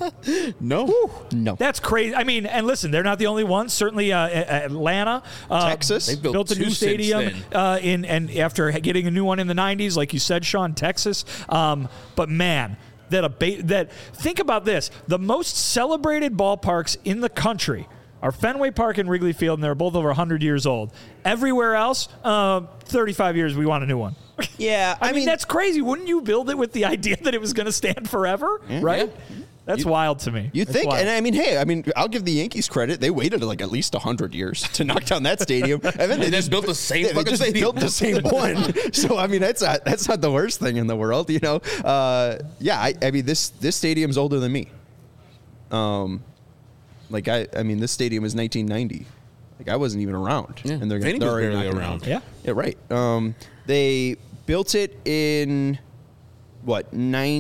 No. That's crazy. I mean, and listen, they're not the only ones. Certainly Atlanta, Texas, they built a new stadium and after getting a new one in the 90s, like you said, Sean, Texas. But man, think about this. The most celebrated ballparks in the country are Fenway Park and Wrigley Field, and they're both over 100 years old. Everywhere else, 35 years, we want a new one. Yeah, I mean, that's crazy. Wouldn't you build it with the idea that it was going to stand forever? Right? Yeah. That's wild to me. You think, and I mean, hey, I'll give the Yankees credit. They waited like at least 100 years to knock down that stadium, and then they just built the same. They just stadium. built the same one. So I mean, that's not the worst thing in the world, you know. I mean, this stadium's older than me. Like I mean, this stadium is 1990. Like I wasn't even around, and they're barely around. Yeah, right. They built it in. What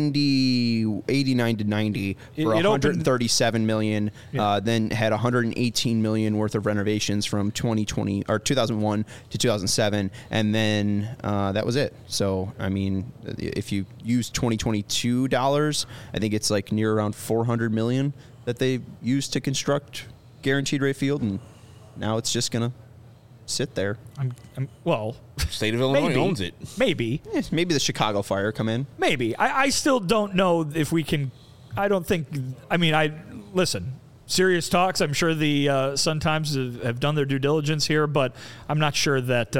89 to 90 for 137 million. Then had 118 million worth of renovations from 2020 or 2001 to 2007, and then that was it. So I mean, if you use 2022 dollars, I think it's like near around 400 million that they used to construct Guaranteed Rate Field, and now it's just gonna sit there. Well, state of Illinois owns it. Maybe the Chicago Fire come in. Maybe. I still don't know if we can. I don't think. I mean, listen. Serious talks. I'm sure the Sun-Times have done their due diligence here, but I'm not sure that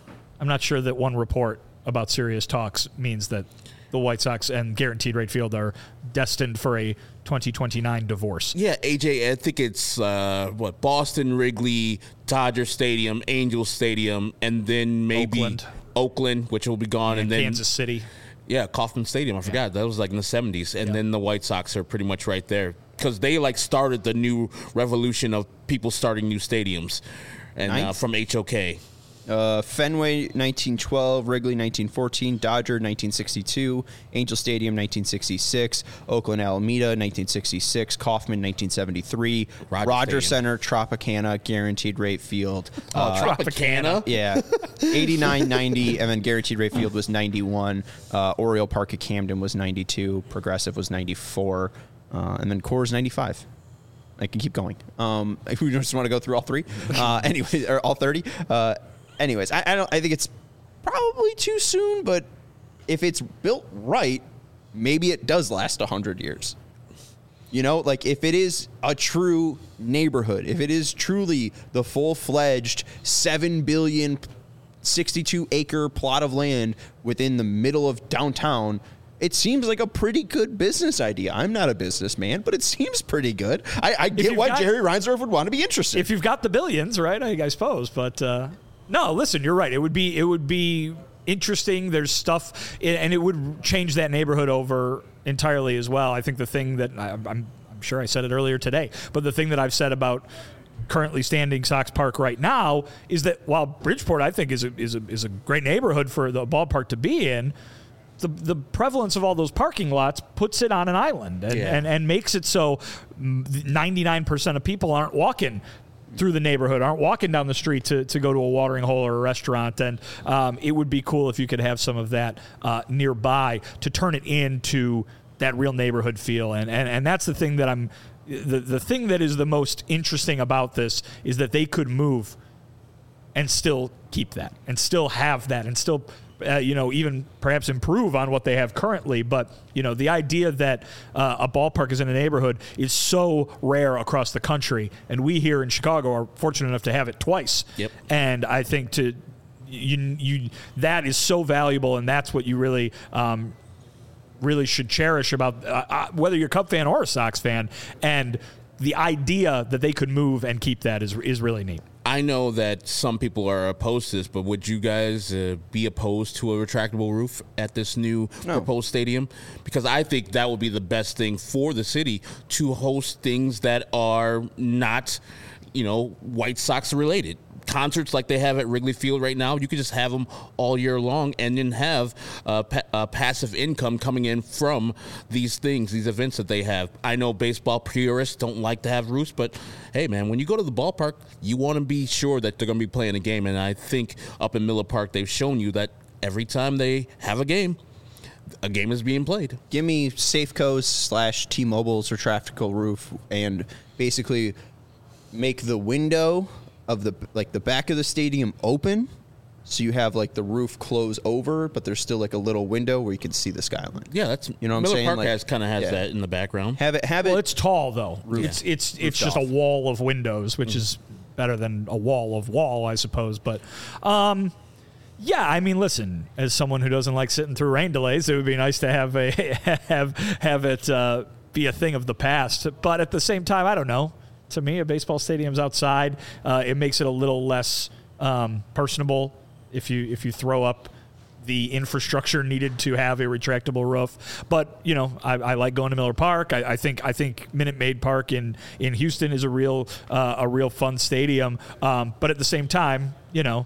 one report about serious talks means that the White Sox and Guaranteed Rate Field are destined for a 2029 divorce. Yeah, AJ, I think it's Boston, Wrigley, Dodger Stadium, Angel Stadium, and then maybe Oakland, which will be gone, and then Kansas City. Yeah, Kauffman Stadium. I forgot that was like in the 70s, and then the White Sox are pretty much right there because they like started the new revolution of people starting new stadiums, and from HOK. Fenway 1912, Wrigley 1914, Dodger 1962, Angel Stadium 1966, Oakland Alameda 1966, Kauffman 1973, Rogers Center, Tropicana, Guaranteed Rate Field. Tropicana? Yeah. 89, 90, and then Guaranteed Rate Field was 91. Oriole Park at Camden was 92. Progressive was 94. And then Coors 95. I can keep going. If we just want to go through all three. Anyway, or all 30. Anyways, I think it's probably too soon, but if it's built right, maybe it does last 100 years. You know, like if it is a true neighborhood, if it is truly the full-fledged 7 billion 62-acre plot of land within the middle of downtown, it seems like a pretty good business idea. I'm not a businessman, but it seems pretty good. I get why Jerry Reinsdorf would want to be interested. If you've got the billions, right? I suppose, but... No, listen, you're right. It would be interesting. There's stuff, and it would change that neighborhood over entirely as well. I think the thing that I'm sure I said it earlier today, but the thing that I've said about currently standing Sox Park right now is that while Bridgeport I think is a great neighborhood for the ballpark to be in, the prevalence of all those parking lots puts it on an island and makes it so 99% of people aren't walking through the neighborhood, aren't walking down the street to go to a watering hole or a restaurant. And it would be cool if you could have some of that nearby to turn it into that real neighborhood feel. And that's the thing that the thing that is the most interesting about this is that they could move and still keep that and still have that and still even perhaps improve on what they have currently. But, the idea that a ballpark is in a neighborhood is so rare across the country. And we here in Chicago are fortunate enough to have it twice. Yep. And I think that is so valuable. And that's what you really should cherish about whether you're a Cub fan or a Sox fan. And the idea that they could move and keep that is really neat. I know that some people are opposed to this, but would you guys be opposed to a retractable roof at this new proposed stadium? Because I think that would be the best thing for the city to host things that are not, White Sox related. Concerts like they have at Wrigley Field right now, you could just have them all year long and then have passive income coming in from these things, these events that they have. I know baseball purists don't like to have roofs, but hey, man, when you go to the ballpark, you want to be sure that they're going to be playing a game. And I think up in Miller Park, they've shown you that every time they have a game is being played. Give me Safeco's / T-Mobile's retractable roof and basically make the window of the back of the stadium open So you have like the roof close over, but there's still like a little window where you can see the skyline. Yeah, that's You know what I'm Miller saying? Park Like, has yeah. that in the background. Have it. Well, it's tall though. Roof. It's just off. a wall of windows, which is better than a wall of wall, I suppose. But yeah, I mean, listen, as someone who doesn't like sitting through rain delays, it would be nice to have have it be a thing of the past. But at the same time, I don't know. To me, a baseball stadium's outside. It makes it a little less personable if you throw up the infrastructure needed to have a retractable roof. But you know, I like going to Miller Park. I think Minute Maid Park in Houston is a real fun stadium. But at the same time, you know,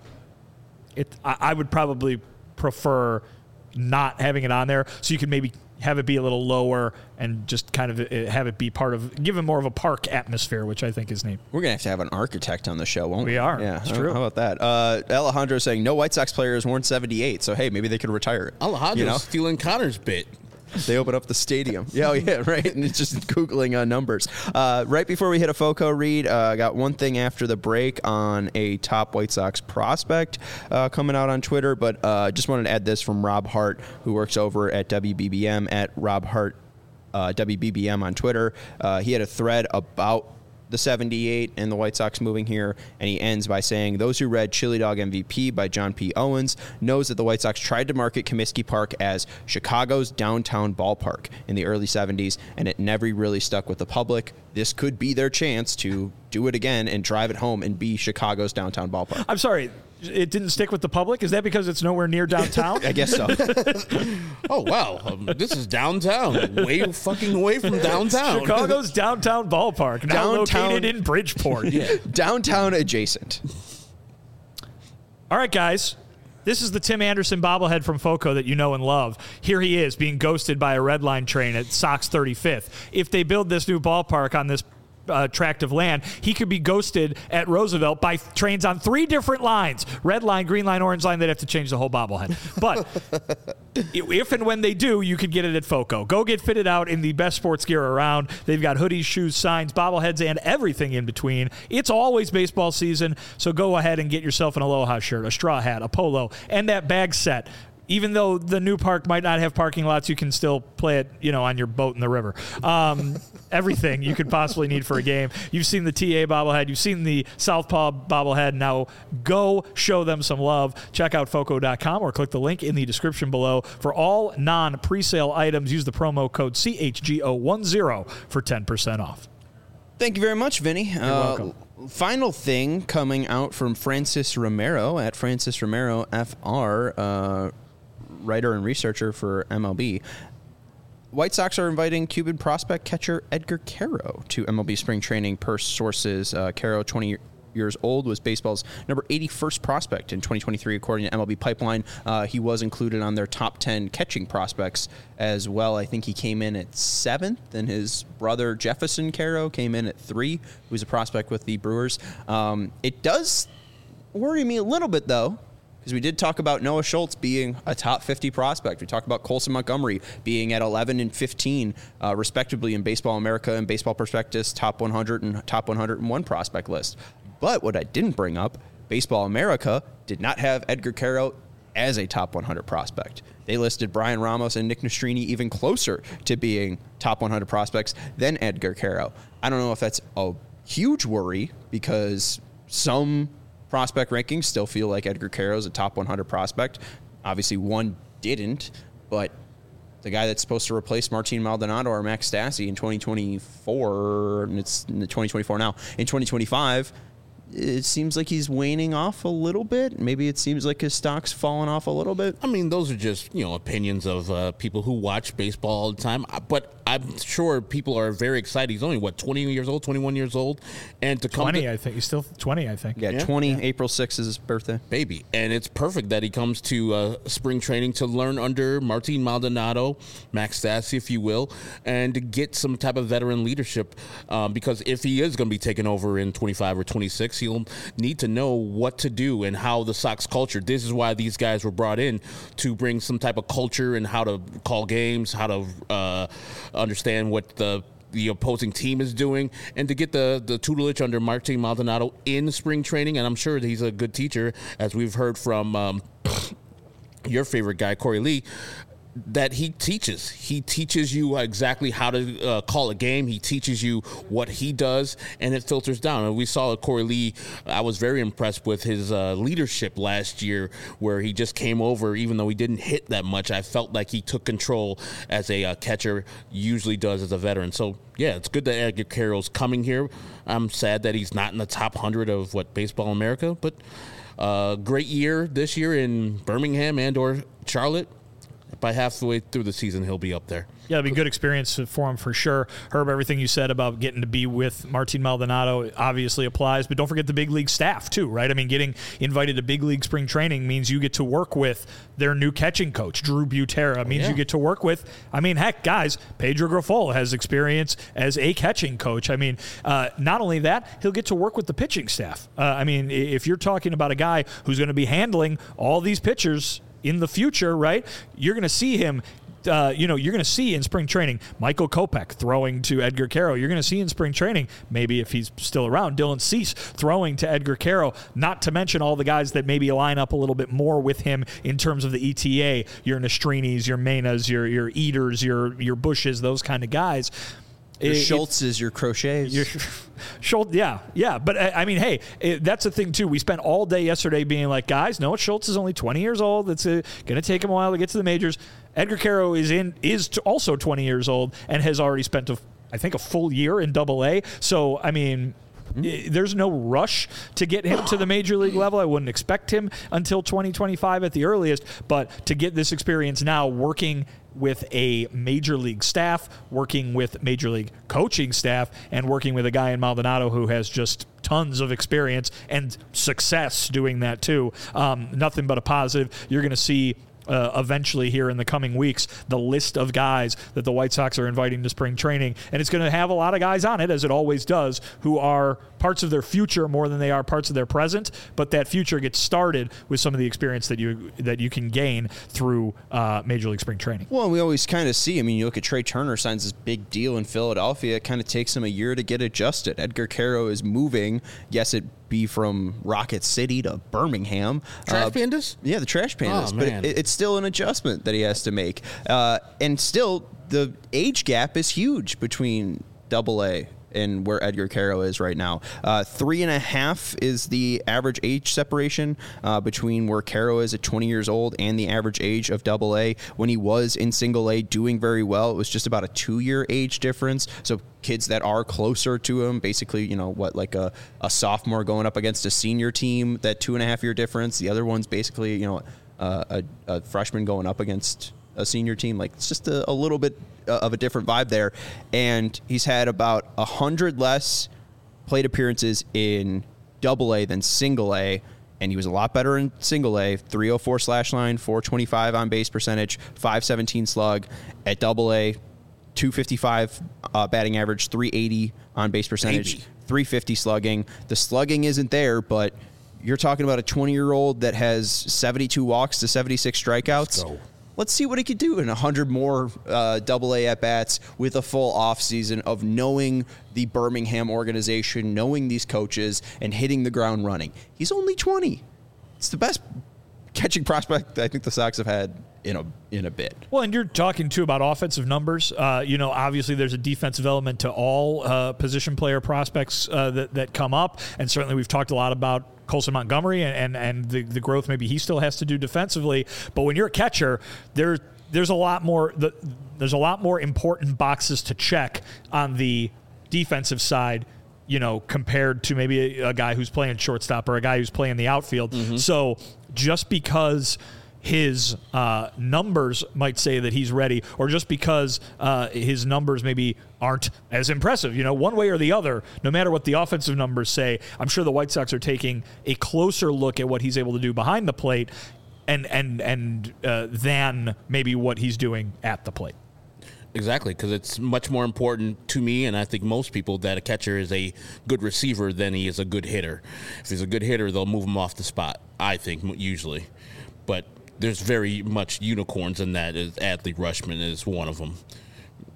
I would probably prefer not having it on there, so you could maybe have it be a little lower and just kind of have it be give it more of a park atmosphere, which I think is neat. We're going to have an architect on the show, won't we? We are. Yeah, it's true. How about that? Alejandro saying no White Sox players worn 78, so hey, maybe they could retire it. Alejandro's stealing Connor's bit. They open up the stadium. Yeah, right. And it's just Googling numbers. Right before we hit a FOCO read, I got one thing after the break on a top White Sox prospect coming out on Twitter, but just wanted to add this from Rob Hart, who works over at WBBM, at Rob Hart WBBM on Twitter. He had a thread about the 78 and the White Sox moving here, and he ends by saying, those who read Chili Dog MVP by John P. Owens knows that the White Sox tried to market Comiskey Park as Chicago's downtown ballpark in the early 70s, and it never really stuck with the public. This could be their chance to do it again and drive it home and be Chicago's downtown ballpark. I'm sorry, it didn't stick with the public? Is that because it's nowhere near downtown? I guess so. Oh, wow. This is downtown. Way fucking away from downtown. Chicago's downtown ballpark, now located in Bridgeport. Yeah. Downtown adjacent. All right, guys. This is the Tim Anderson bobblehead from FOCO that you know and love. Here he is being ghosted by a Red Line train at Sox 35th. If they build this new ballpark on this tract of land, he could be ghosted at Roosevelt by trains on 3 different lines: Red Line, Green Line, Orange Line. They'd have to change the whole bobblehead. But if and when they do, you can get it at FOCO. Go get fitted out in the best sports gear around. They've got hoodies, shoes, signs, bobbleheads, and everything in between. It's always baseball season, so go ahead and get yourself an Aloha shirt, a straw hat, a polo, and that bag set. Even though the new park might not have parking lots, you can still play it, you know, on your boat in the river. Everything you could possibly need for a game. You've seen the TA bobblehead. You've seen the Southpaw bobblehead. Now go show them some love. Check out FOCO.com or click the link in the description below. For all non-presale items, use the promo code CHGO10 for 10% off. Thank you very much, Vinny. You're welcome. Final thing coming out from Francis Romero at Francis Romero FR, writer and researcher for MLB. White Sox are inviting Cuban prospect catcher Edgar Quero to MLB spring training per sources. Quero, 20 years old, was baseball's number 81st prospect in 2023, according to MLB Pipeline. He was included on their top 10 catching prospects as well. I think he came in at 7th, and his brother Jefferson Quero came in at 3, who's a prospect with the Brewers. It does worry me a little bit, though, because we did talk about Noah Schultz being a top 50 prospect. We talked about Colson Montgomery being at 11 and 15, respectively, in Baseball America and Baseball Prospectus top 100 and top 101 prospect list. But what I didn't bring up, Baseball America did not have Edgar Quero as a top 100 prospect. They listed Brian Ramos and Nick Nastrini even closer to being top 100 prospects than Edgar Quero. I don't know if that's a huge worry, because some prospect rankings still feel like Edgar Quero is a top 100 prospect. Obviously, one didn't, but the guy that's supposed to replace Martin Maldonado or Max Stassi in 2024, and it's in 2024 now, in 2025, it seems like he's waning off a little bit. Maybe it seems like his stock's fallen off a little bit. I mean, those are just, opinions of people who watch baseball all the time. But I'm sure people are very excited. He's only, 20 years old, 21 years old? And to come 20, I think. He's still 20, I think. Yeah, 20, yeah. April 6th is his birthday. Baby. And it's perfect that he comes to spring training to learn under Martin Maldonado, Max Stassi, if you will, and to get some type of veteran leadership. Because if he is going to be taking over in 25 or 26, he'll need to know what to do and how the Sox culture. This is why these guys were brought in, to bring some type of culture and how to call games, how to understand what the the opposing team is doing, and to get the tutelage under Martin Maldonado in spring training. And I'm sure he's a good teacher, as we've heard from your favorite guy, Corey Lee, that he teaches you exactly how to call a game. He teaches you what he does, and it filters down. And we saw Corey Lee. I was very impressed with his leadership last year, where he just came over, even though he didn't hit that much. I felt like he took control as a catcher usually does as a veteran. So yeah, it's good that Edgar Carroll's coming here. I'm sad that he's not in the top 100 of Baseball America, but great year this year in Birmingham and or Charlotte. By halfway through the season, he'll be up there. Yeah, it'll be a good experience for him for sure. Herb, everything you said about getting to be with Martin Maldonado obviously applies, but don't forget the big league staff too, right? I mean, getting invited to big league spring training means you get to work with their new catching coach, Drew Butera. Means you get to work with, I mean, heck, guys, Pedro Grifol has experience as a catching coach. I mean, not only that, he'll get to work with the pitching staff. I mean, if you're talking about a guy who's going to be handling all these pitchers in the future, right? You're going to see him, you're going to see in spring training Michael Kopech throwing to Edgar Quero. You're going to see in spring training, maybe if he's still around, Dylan Cease throwing to Edgar Quero, not to mention all the guys that maybe line up a little bit more with him in terms of the ETA, your Nestrinis, your Menas, your Eaters, your Bushes, those kind of guys. Your Schultz's, your Crochets. Schultz, yeah. But I mean, hey, that's the thing too. We spent all day yesterday being like, guys, Noah Schultz is only 20 years old. It's going to take him a while to get to the majors. Edgar Quero is also 20 years old and has already spent I think a full year in Double-A. So I mean, there's no rush to get him to the major league level. I wouldn't expect him until 2025 at the earliest. But to get this experience now, working with a major league staff, working with major league coaching staff, and working with a guy in Maldonado who has just tons of experience and success doing that too. Nothing but a positive. You're going to see eventually here in the coming weeks the list of guys that the White Sox are inviting to spring training, and it's going to have a lot of guys on it, as it always does, who are parts of their future more than they are parts of their present, but that future gets started with some of the experience that you can gain through Major League Spring Training. Well, we always kind of see, I mean, you look at Trey Turner signs this big deal in Philadelphia. It kind of takes him a year to get adjusted. Edgar Quero is moving. Yes, it be from Rocket City to Birmingham. Trash Pandas? Yeah, the Trash Pandas. Oh, but it's still an adjustment that he has to make. And still, the age gap is huge between Double-A and where Edgar Quero is right now. 3.5 is the average age separation between where Quero is at 20 years old and the average age of Double-A. When he was in Single-A doing very well, it was just about a 2-year age difference. So kids that are closer to him, basically, like a sophomore going up against a senior team, that 2.5-year difference. The other one's basically, a freshman going up against a senior team. Like, it's just a little bit of a different vibe there. And he's had about 100 less plate appearances in Double-A than Single-A, and he was a lot better in Single-A. 304 slash line, 425 on base percentage, 517 slug. At Double-A, 255 batting average, 380 on base percentage, 350 slugging. The slugging isn't there, but you're talking about a 20-year-old that has 72 walks to 76 strikeouts. Let's see what he could do in 100 more Double-A at-bats with a full offseason of knowing the Birmingham organization, knowing these coaches, and hitting the ground running. He's only 20. It's the best catching prospect I think the Sox have had in a bit. Well, and you're talking, too, about offensive numbers. Obviously there's a defensive element to all position player prospects that come up, and certainly we've talked a lot about Colson Montgomery and the growth maybe he still has to do defensively. But when you're a catcher, there's a lot more important boxes to check on the defensive side, compared to maybe a guy who's playing shortstop or a guy who's playing the outfield. Mm-hmm. So just because his numbers might say that he's ready, or just because his numbers maybe aren't as impressive, one way or the other, no matter what the offensive numbers say, I'm sure the White Sox are taking a closer look at what he's able to do behind the plate and than maybe what he's doing at the plate. Exactly, because it's much more important to me, and I think most people, that a catcher is a good receiver than he is a good hitter. If he's a good hitter, they'll move him off the spot, I think, usually. But there's very much unicorns in that. Adley Rutschman is one of them.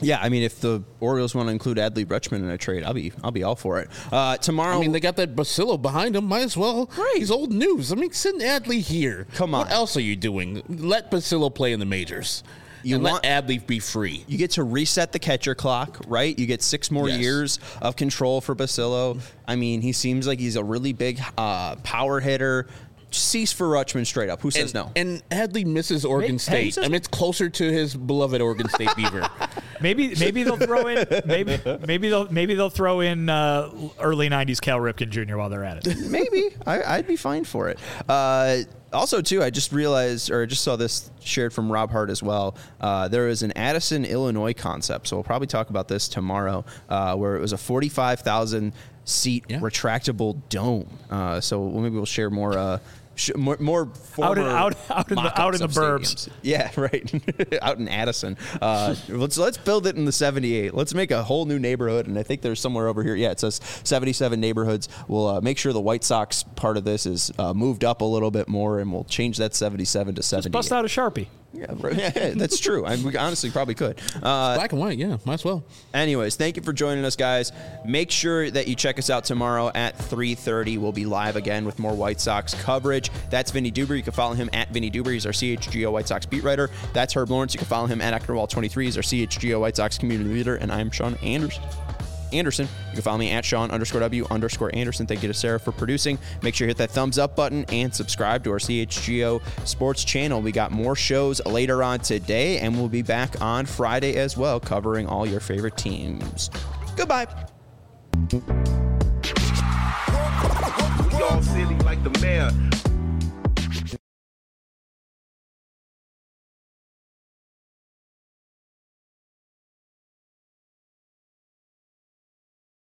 Yeah, I mean, if the Orioles want to include Adley Rutschman in a trade, I'll be all for it. Tomorrow, I mean, they got that Basillo behind him. Might as well. Right. He's old news. I mean, send Adley here. Come on. What else are you doing? Let Basillo play in the majors. Let Adley be free. You get to reset the catcher clock, right? You get 6 more years of control for Basillo. I mean, he seems like he's a really big power hitter. Cease for Rutschman straight up. Who says no? And Adley misses Oregon State. I mean, it's closer to his beloved Oregon State Beaver. Maybe they'll throw in maybe they'll throw in early '90s Cal Ripken Jr. while they're at it. Maybe I'd be fine for it. Also, too, I just realized, or I just saw this shared from Rob Hart as well. There is an Addison, Illinois concept, so we'll probably talk about this tomorrow, where it was a 45,000 seat retractable dome. So maybe we'll share more. More out in the burbs. Yeah, right. Out in Addison. Let's build it in the 78. Let's make a whole new neighborhood. And I think there's somewhere over here. Yeah, it says 77 neighborhoods. We'll make sure the White Sox part of this is moved up a little bit more, and we'll change that 77 to 78. Just bust out a Sharpie. Yeah, that's true. We honestly probably could. Black and white, yeah, might as well. Anyways, thank you for joining us, guys. Make sure that you check us out tomorrow at 3:30. We'll be live again with more White Sox coverage. That's Vinny Duber. You can follow him at Vinny Duber. He's our CHGO White Sox beat writer. That's Herb Lawrence. You can follow him at Ecknerwall23. He's our CHGO White Sox community leader. And I'm Sean Anderson. You can follow me at Sean_W_Anderson. Thank you to Sarah for producing. Make sure you hit that thumbs up button and subscribe to our CHGO Sports channel. We got more shows later on today, and we'll be back on Friday as well, covering all your favorite teams. Goodbye. We all silly like the mayor.